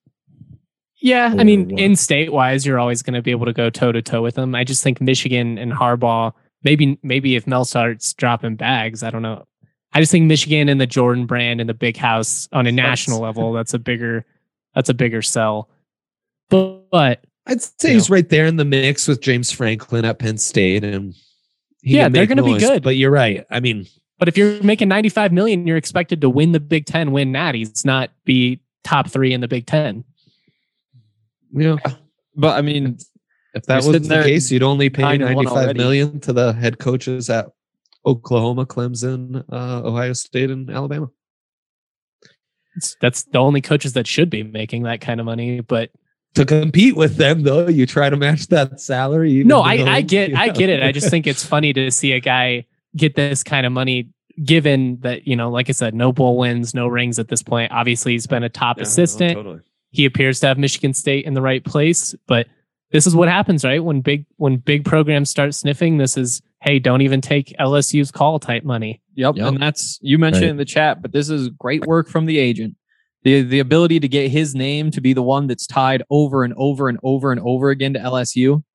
Yeah, I Or mean, what? in state wise, you're always going to be able to go toe to toe with them. I just think Michigan and Harbaugh, maybe maybe if Mel starts dropping bags, I don't know. I just think Michigan and the Jordan brand and the big house on a national level, that's a bigger that's a bigger sell. But, but I'd say You he's right there in the mix with James Franklin at Penn State, and he Yeah, can they're make gonna be noise, good. But you're right. I mean, but if you're making ninety-five million, you're expected to win the Big Ten, win natties, not be top three in the Big Ten. you know, But I mean, if that You're was sitting the there case, you'd only pay nine and one ninety-five already. million to the head coaches at Oklahoma, Clemson, uh, Ohio State, and Alabama. It's, that's the only coaches that should be making that kind of money. But To compete with them, though, you try to match that salary. even no, though, I, I get you I know. get it. I just think it's funny to see a guy get this kind of money, given that, you know, like I said, no bowl wins, no rings at this point. Obviously, he's been a top Yeah, no, assistant. totally. He appears to have Michigan State in the right place, but this is what happens, right? When big when big programs start sniffing, this is, hey, don't even take L S U's call type money. yep, Yep. and that's you mentioned Right. in the chat, but this is great work from the agent. The the ability to get his name to be the one that's tied over and over and over and over again to L S U.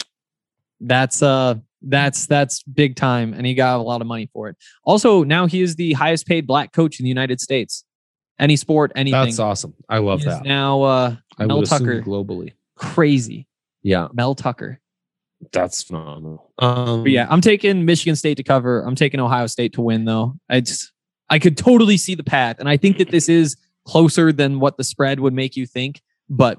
That's uh that's that's big time, and he got a lot of money for it. Also, now he is the highest paid black coach in the United States. Any sport, anything. That's awesome. I love He is that. now uh, I Mel would assume Tucker. globally. crazy. Yeah, Mel Tucker. that's phenomenal. Um, But yeah, I'm taking Michigan State to cover. I'm taking Ohio State to win, though. I just I could totally see the path, and I think that this is closer than what the spread would make you think. But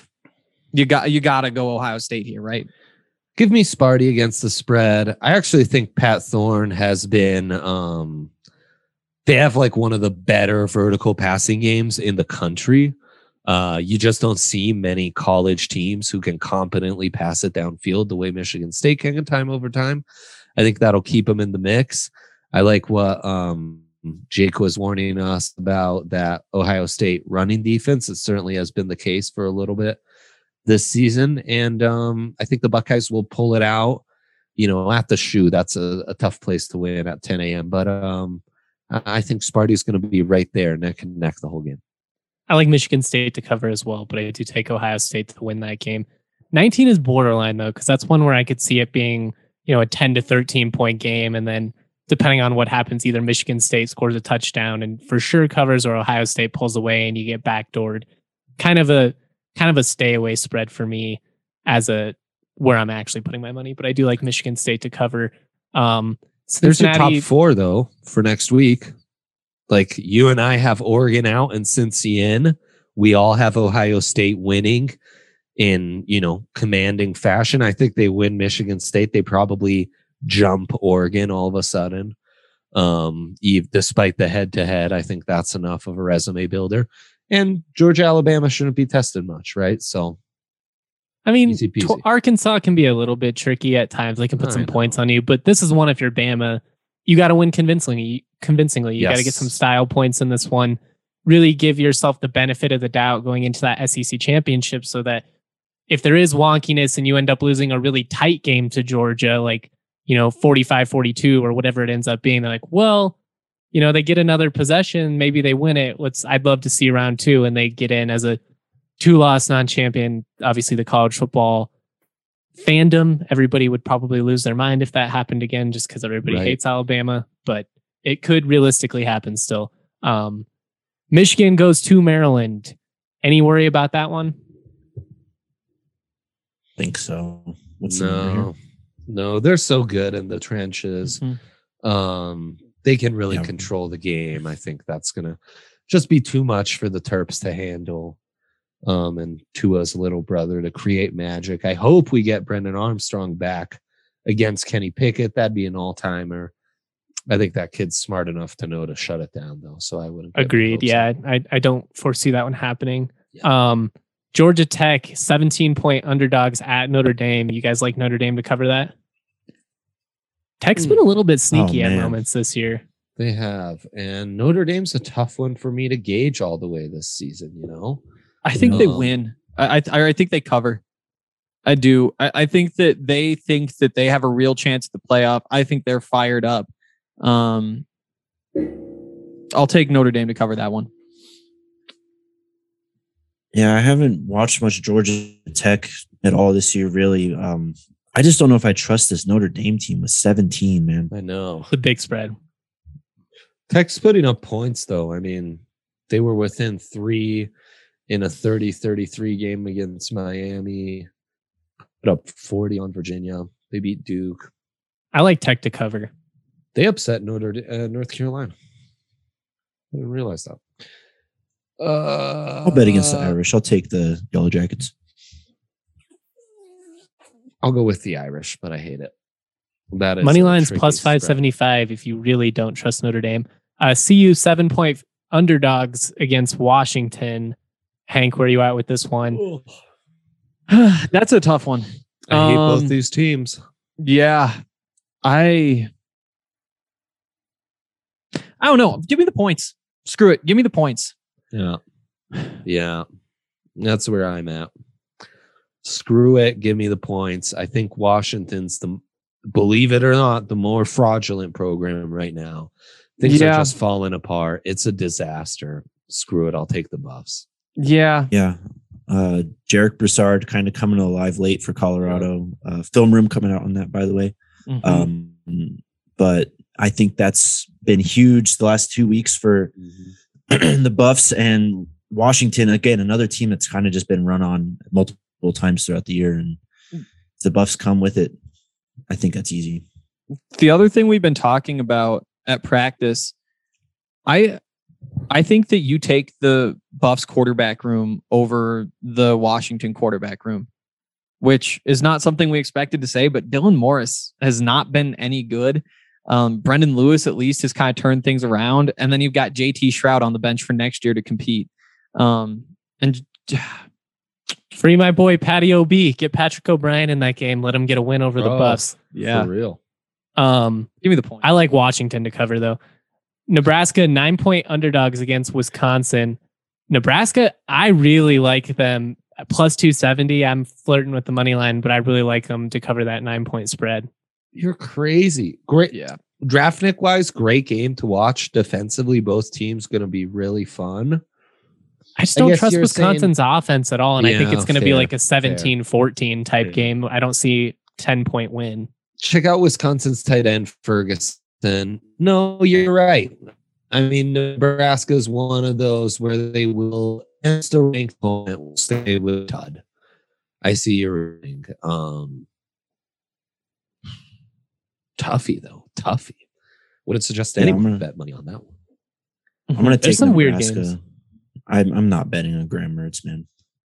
you got you got to go Ohio State here, right? give me Sparty against the spread. I actually think Pat Thorne has been. Um, they have like one of the better vertical passing games in the country. Uh, you just don't see many college teams who can competently pass it downfield the way Michigan State can time over time. I think that'll keep them in the mix. I like what um, Jake was warning us about, that Ohio State running defense. It certainly has been the case for a little bit this season. And um, I think the Buckeyes will pull it out, you know, at the shoe. That's a, a tough place to win at ten a.m. But um, I I think Sparty's going to be right there neck and neck the whole game. I like Michigan State to cover as well, but I do take Ohio State to win that game. nineteen is borderline though, because that's one where I could see it being, you know, a ten to thirteen point game. And then depending on what happens, either Michigan State scores a touchdown and for sure covers, or Ohio State pulls away and you get backdoored. Kind of a kind of a stay away spread for me as a where I'm actually putting my money. But I do like Michigan State to cover. Um, There's your top Cincinnati, four though for next week. Like you and I have Oregon out and Cincy in. We all have Ohio State winning in, you know, commanding fashion. I think they win Michigan State. They probably jump Oregon all of a sudden. Um, Eve, despite the head to head, I think that's enough of a resume builder. And Georgia, Alabama shouldn't be tested much, right? So I mean, Easy peasy. tw- Arkansas can be a little bit tricky at times. They can put I some know. points on you, but this is one if you're Bama, you got to win convincingly. Convincingly, you got to get Yes. some style points in this one. Really give yourself the benefit of the doubt going into that S E C championship, so that if there is wonkiness and you end up losing a really tight game to Georgia, like, you know, forty-five forty-two or whatever it ends up being, they're like, well, you know, they get another possession, maybe they win it. Let's, I'd love to see round two and they get in as a two-loss non-champion. Obviously, the college football fandom, everybody would probably lose their mind if that happened again, just because everybody Right. hates Alabama, but it could realistically happen still. Um, Michigan goes to Maryland. Any worry about that one? think so. What's the number here? No, no, they're so good in the trenches. Mhm. Um, they can really Yeah. control the game. I think that's gonna just be too much for the Terps to handle. Um, and Tua's little brother to create magic. I hope we get Brendan Armstrong back against Kenny Pickett. That'd be an all timer. I think that kid's smart enough to know to shut it down, though. So I wouldn't. get my Agreed. hopes Yeah, up. I, I don't foresee that one happening. Yeah. Um, Georgia Tech, seventeen point underdogs at Notre Dame. You guys like Notre Dame to cover that? Tech's been a little bit sneaky at man. moments this year. They have, and Notre Dame's a tough one for me to gauge all the way this season. You know. I think they Um, win. I, I I think they cover. I do. I, I think that they think that they have a real chance at the playoff. I think they're fired up. Um, I'll take Notre Dame to cover that one. Yeah, I haven't watched much Georgia Tech at all this year, really. Um, I just don't know if I trust this Notre Dame team with seventeen, man. I know. The big spread. Tech's putting up points, though. I mean, they were within three in a thirty thirty-three game against Miami. Put up forty on Virginia. They beat Duke. I like Tech to cover. They upset Notre uh, North Carolina. I didn't realize that. Uh, I'll bet against the Irish. I'll take the Yellow Jackets. I'll go with the Irish, but I hate it. That is Money a line's tricky plus spread. five seventy-five if you really don't trust Notre Dame. Uh, C U seven point underdogs against Washington. Hank, where are you at with this one? That's a tough one. I hate Um, both these teams. Yeah, I. I don't know. Give me the points. Screw it. Give me the points. Yeah. Yeah. That's where I'm at. Screw it. Give me the points. I think Washington's the, believe it or not, the more fraudulent program right now. Things Yeah. are just falling apart. It's a disaster. Screw it. I'll take the Buffs. Yeah. Yeah. Uh, Jarek Broussard kind of coming alive late for Colorado. Uh, film room coming out on that, by the way. Mhm. Um, but I think that's been huge the last two weeks for the Buffs and Washington. Again, another team that's kind of just been run on multiple times throughout the year. And if the Buffs come with it, I think that's easy. The other thing we've been talking about at practice, I I think that you take the Buffs quarterback room over the Washington quarterback room, which is not something we expected to say, but Dylan Morris has not been any good. Um, Brendan Lewis at least has kind of turned things around. And then you've got J T Shroud on the bench for next year to compete. Um, and Free my boy Patty O B. Get Patrick O'Brien in that game. Let him get a win over the Oh. Buffs. yeah, For real. Um, give me the point. I like Washington to cover though. Nebraska nine point underdogs against Wisconsin. Nebraska, I really like them at plus two seventy. I'm flirting with the money line, but I really like them to cover that nine point spread. You're crazy. Great. Yeah. Draftnik wise, great game to watch. Defensively, both teams going to be really fun. I just I don't guess trust you're Wisconsin's offense at all. And I think Yeah, it's going to be fair, like a seventeen fourteen type Fair. game. I don't see ten point win. Check out Wisconsin's tight end, Ferguson. No, you're right. I mean, Nebraska is one of those where they will, against a ranked opponent, will stay with Todd. I see your ring. Um, Tuffy, though. Tuffy. Wouldn't suggest Yeah, any I'm gonna- bet money on that one. I'm going to There's take some weird Nebraska. games. I'm, I'm not betting on Graham Mertz, man.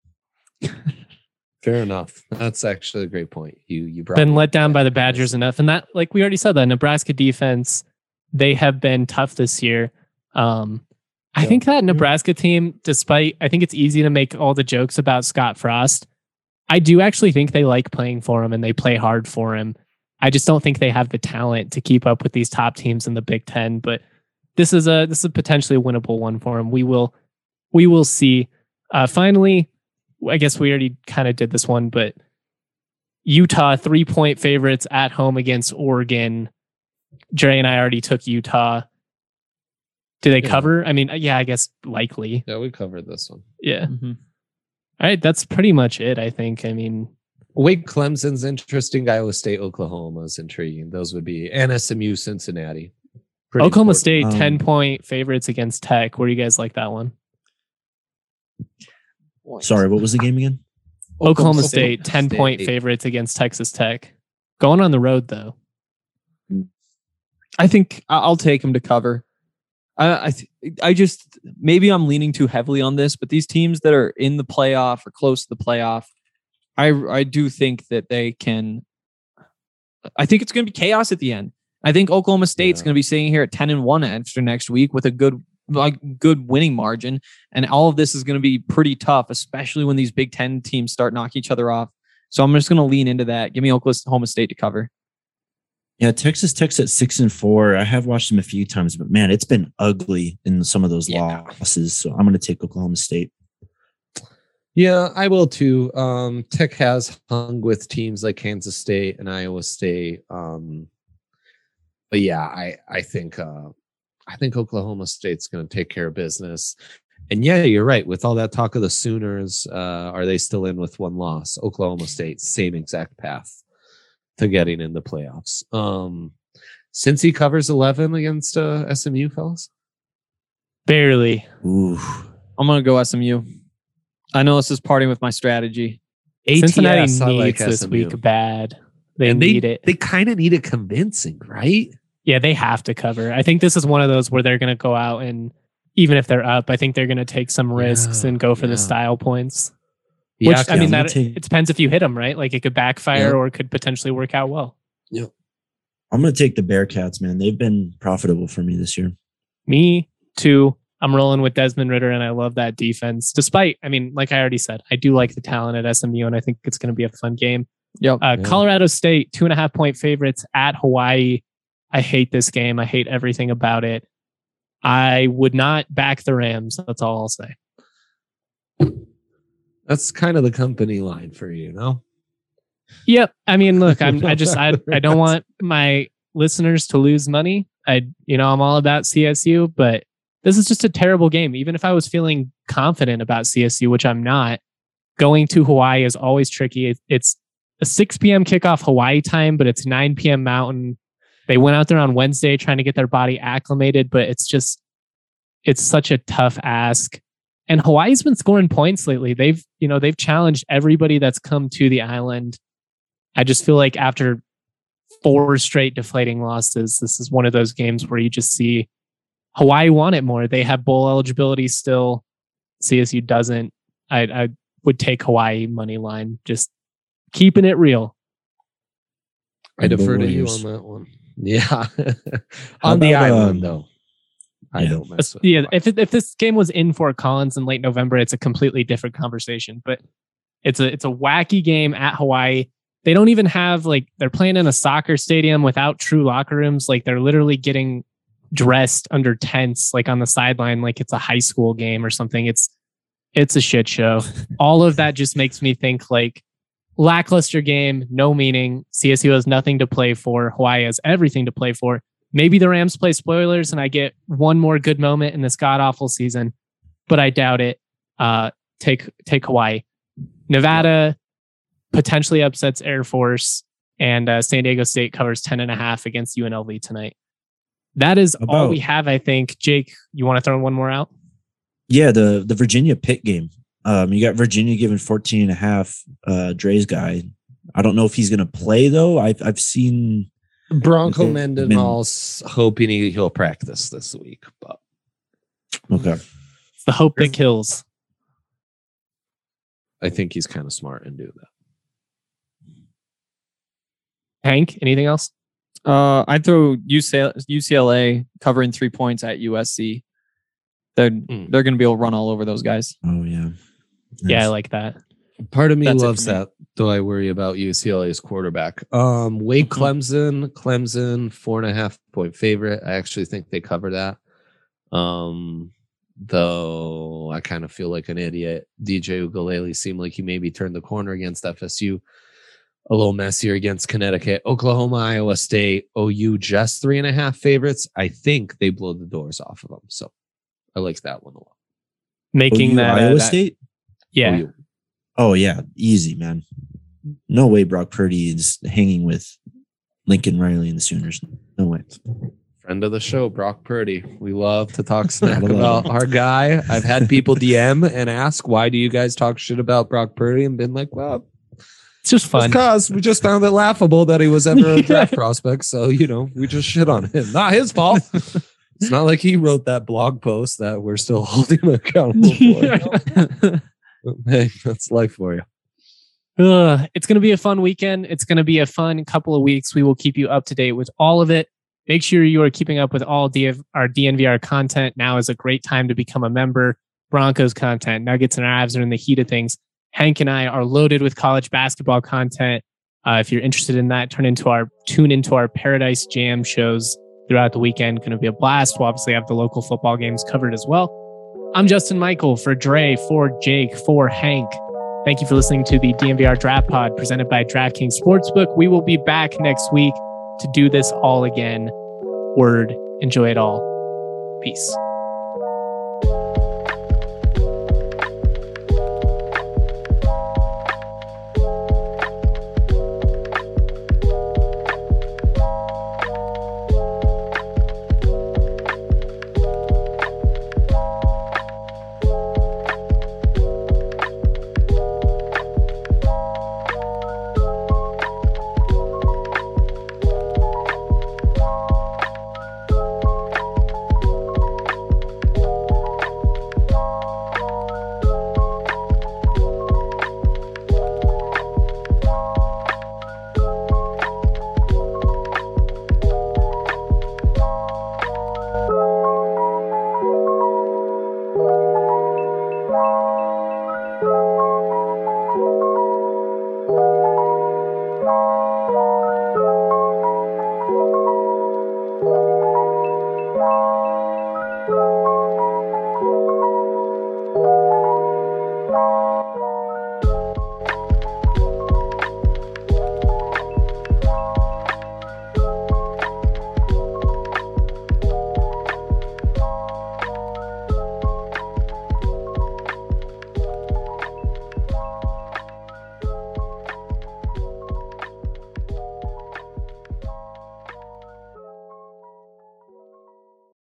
Fair enough. That's actually a great point. You you brought Been me let up down with by that. the Badgers enough. And that, like we already said, that Nebraska defense, they have been tough this year. Um, I Yeah. think that Nebraska team, despite, I think it's easy to make all the jokes about Scott Frost. I do actually think they like playing for him and they play hard for him. I just don't think they have the talent to keep up with these top teams in the Big Ten. But this is a this is potentially a winnable one for him. We will we will see. Uh, finally, I guess we already kind of did this one, but Utah three point favorites at home against Oregon. Dre and I already took Utah. Do they Yeah. cover? I mean, yeah, I guess likely. Yeah, we covered this one. Yeah. Mm-hmm. All right, that's pretty much it. I think. I mean, Wake Clemson's interesting. Iowa State, Oklahoma is intriguing. Those would be and S M U, Cincinnati. Pretty Oklahoma important. State Um, ten point favorites against Tech. Where do you guys like that one? Sorry, what was the game again? Oklahoma State ten point favorites against Texas Tech. Going on the road though. I think I- I'll take them to cover. I I, th- I just maybe I'm leaning too heavily on this, but these teams that are in the playoff or close to the playoff, I I do think that they can. I think it's going to be chaos at the end. I think Oklahoma State's Yeah. going to be sitting here at ten and one after next week with a good like good winning margin, and all of this is going to be pretty tough, especially when these Big Ten teams start knocking each other off. So I'm just going to lean into that. Give me Oklahoma State to cover. Yeah, Texas Tech's at six and four. I have watched them a few times, but man, it's been ugly in some of those Yeah. losses. So I'm going to take Oklahoma State. Yeah, I will too. Um, Tech has hung with teams like Kansas State and Iowa State. Um, but yeah, I I think uh, I think Oklahoma State's going to take care of business. And yeah, you're right. With all that talk of the Sooners, uh, are they still in with one loss? Oklahoma State, same exact path to getting in the playoffs. Um, since he covers eleven against uh, S M U, fellas. Barely. Ooh. I'm going to go S M U. I know this is parting with my strategy. Cincinnati A T S, I needs like this S M U. week bad. They and need they, it. They kind of need it convincing, right? Yeah, they have to cover. I think this is one of those where they're going to go out and even if they're up, I think they're going to take some risks Yeah, and go for yeah. the style points. Yeah, Which I yeah, mean, I'm gonna that take- it depends if you hit them right. Like it could backfire Yeah. or it could potentially work out well. I'm going to take the Bearcats, man. They've been profitable for me this year. Me too. I'm rolling with Desmond Ritter, and I love that defense. Despite, I mean, like I already said, I do like the talent at S M U, and I think it's going to be a fun game. Yep. Uh, Yeah. Colorado State, two and a half point favorites at Hawaii. I hate this game. I hate everything about it. I would not back the Rams. That's all I'll say. That's kind of the company line for you, no? Yep. I mean, look, I'm. I just. I. I don't want my listeners to lose money. I. You know, I'm all about C S U, but this is just a terrible game. Even if I was feeling confident about C S U, which I'm not, going to Hawaii is always tricky. It, it's a six p.m. kickoff Hawaii time, but it's nine p.m. Mountain. They went out there on Wednesday trying to get their body acclimated, but it's just, it's such a tough ask. And Hawaii's been scoring points lately. They've, you know, they've challenged everybody that's come to the island. I just feel like after four straight deflating losses, this is one of those games where you just see Hawaii want it more. They have bowl eligibility still. C S U doesn't. I, I would take Hawaii money line, just keeping it real. I Go defer to you Warriors. on that one. Yeah. How on the about, island, um, though. I yeah. don't mess with Yeah, Hawaii. if it, if this game was in Fort Collins in late November, it's a completely different conversation. But it's a it's a wacky game at Hawaii. They don't even have like they're playing in a soccer stadium without true locker rooms. Like they're literally getting dressed under tents, like on the sideline, like it's a high school game or something. It's it's a shit show. All of that just makes me think like lackluster game, no meaning. C S U has nothing to play for. Hawaii has everything to play for. Maybe the Rams play spoilers and I get one more good moment in this god awful season, but I doubt it. Uh, take take Hawaii. Nevada potentially upsets Air Force, and uh, San Diego State covers ten and a half against U N L V tonight. That is all About- we have, I think. Jake, you want to throw one more out? Yeah, the the Virginia Pitt game. Um, you got Virginia giving fourteen and a half. Uh, Dre's guy. I don't know if he's going to play though. I've I've seen Bronco Okay. Mendenhall's hoping he, he'll practice this week, but okay. It's the hope that kills. I think he's kind of smart and do that. Hank, anything else? Uh, I'd throw U C L A, U C L A covering three points at U S C. They're Mm. they're going to be able to run all over those guys. Oh yeah. Yeah, I Nice. like that. Part of me That's it loves for me. that, though I worry about U C L A's quarterback. Um, Wake Mhm. Clemson, Clemson, four and a half point favorite. I actually think they cover that. Um, though I kind of feel like an idiot. D J Ugalele seemed like he maybe turned the corner against F S U. A little messier against Connecticut. Oklahoma, Iowa State, O U just three and a half favorites. I think they blow the doors off of them. So I like that one a lot. Making O U, that Iowa uh, that, State. yeah. O U. Oh yeah, easy, man. No way Brock Purdy is hanging with Lincoln Riley and the Sooners. No way. Friend of the show, Brock Purdy. We love to talk smack Gotta love about our guy. I've had people D M and ask, why do you guys talk shit about Brock Purdy? And been like, well, It's just fun. because we just found it laughable that he was ever a draft prospect. So, you know, we just shit on him. Not his fault. It's not like he wrote that blog post that we're still holding him accountable for. You know? Hey, that's life for you. Ugh, it's going to be a fun weekend. It's going to be a fun couple of weeks. We will keep you up to date with all of it. Make sure you are keeping up with all D F, our D N V R content. Now is a great time to become a member. Broncos content, Nuggets and Avs are in the heat of things. Hank and I are loaded with college basketball content. Uh, if you're interested in that, turn into our tune into our Paradise Jam shows throughout the weekend. Going to be a blast. We'll obviously have the local football games covered as well. I'm Justin Michael for Dre, for Jake, for Hank. Thank you for listening to the D N V R Draft Pod presented by DraftKings Sportsbook. We will be back next week to do this all again. Word. Enjoy it all. Peace.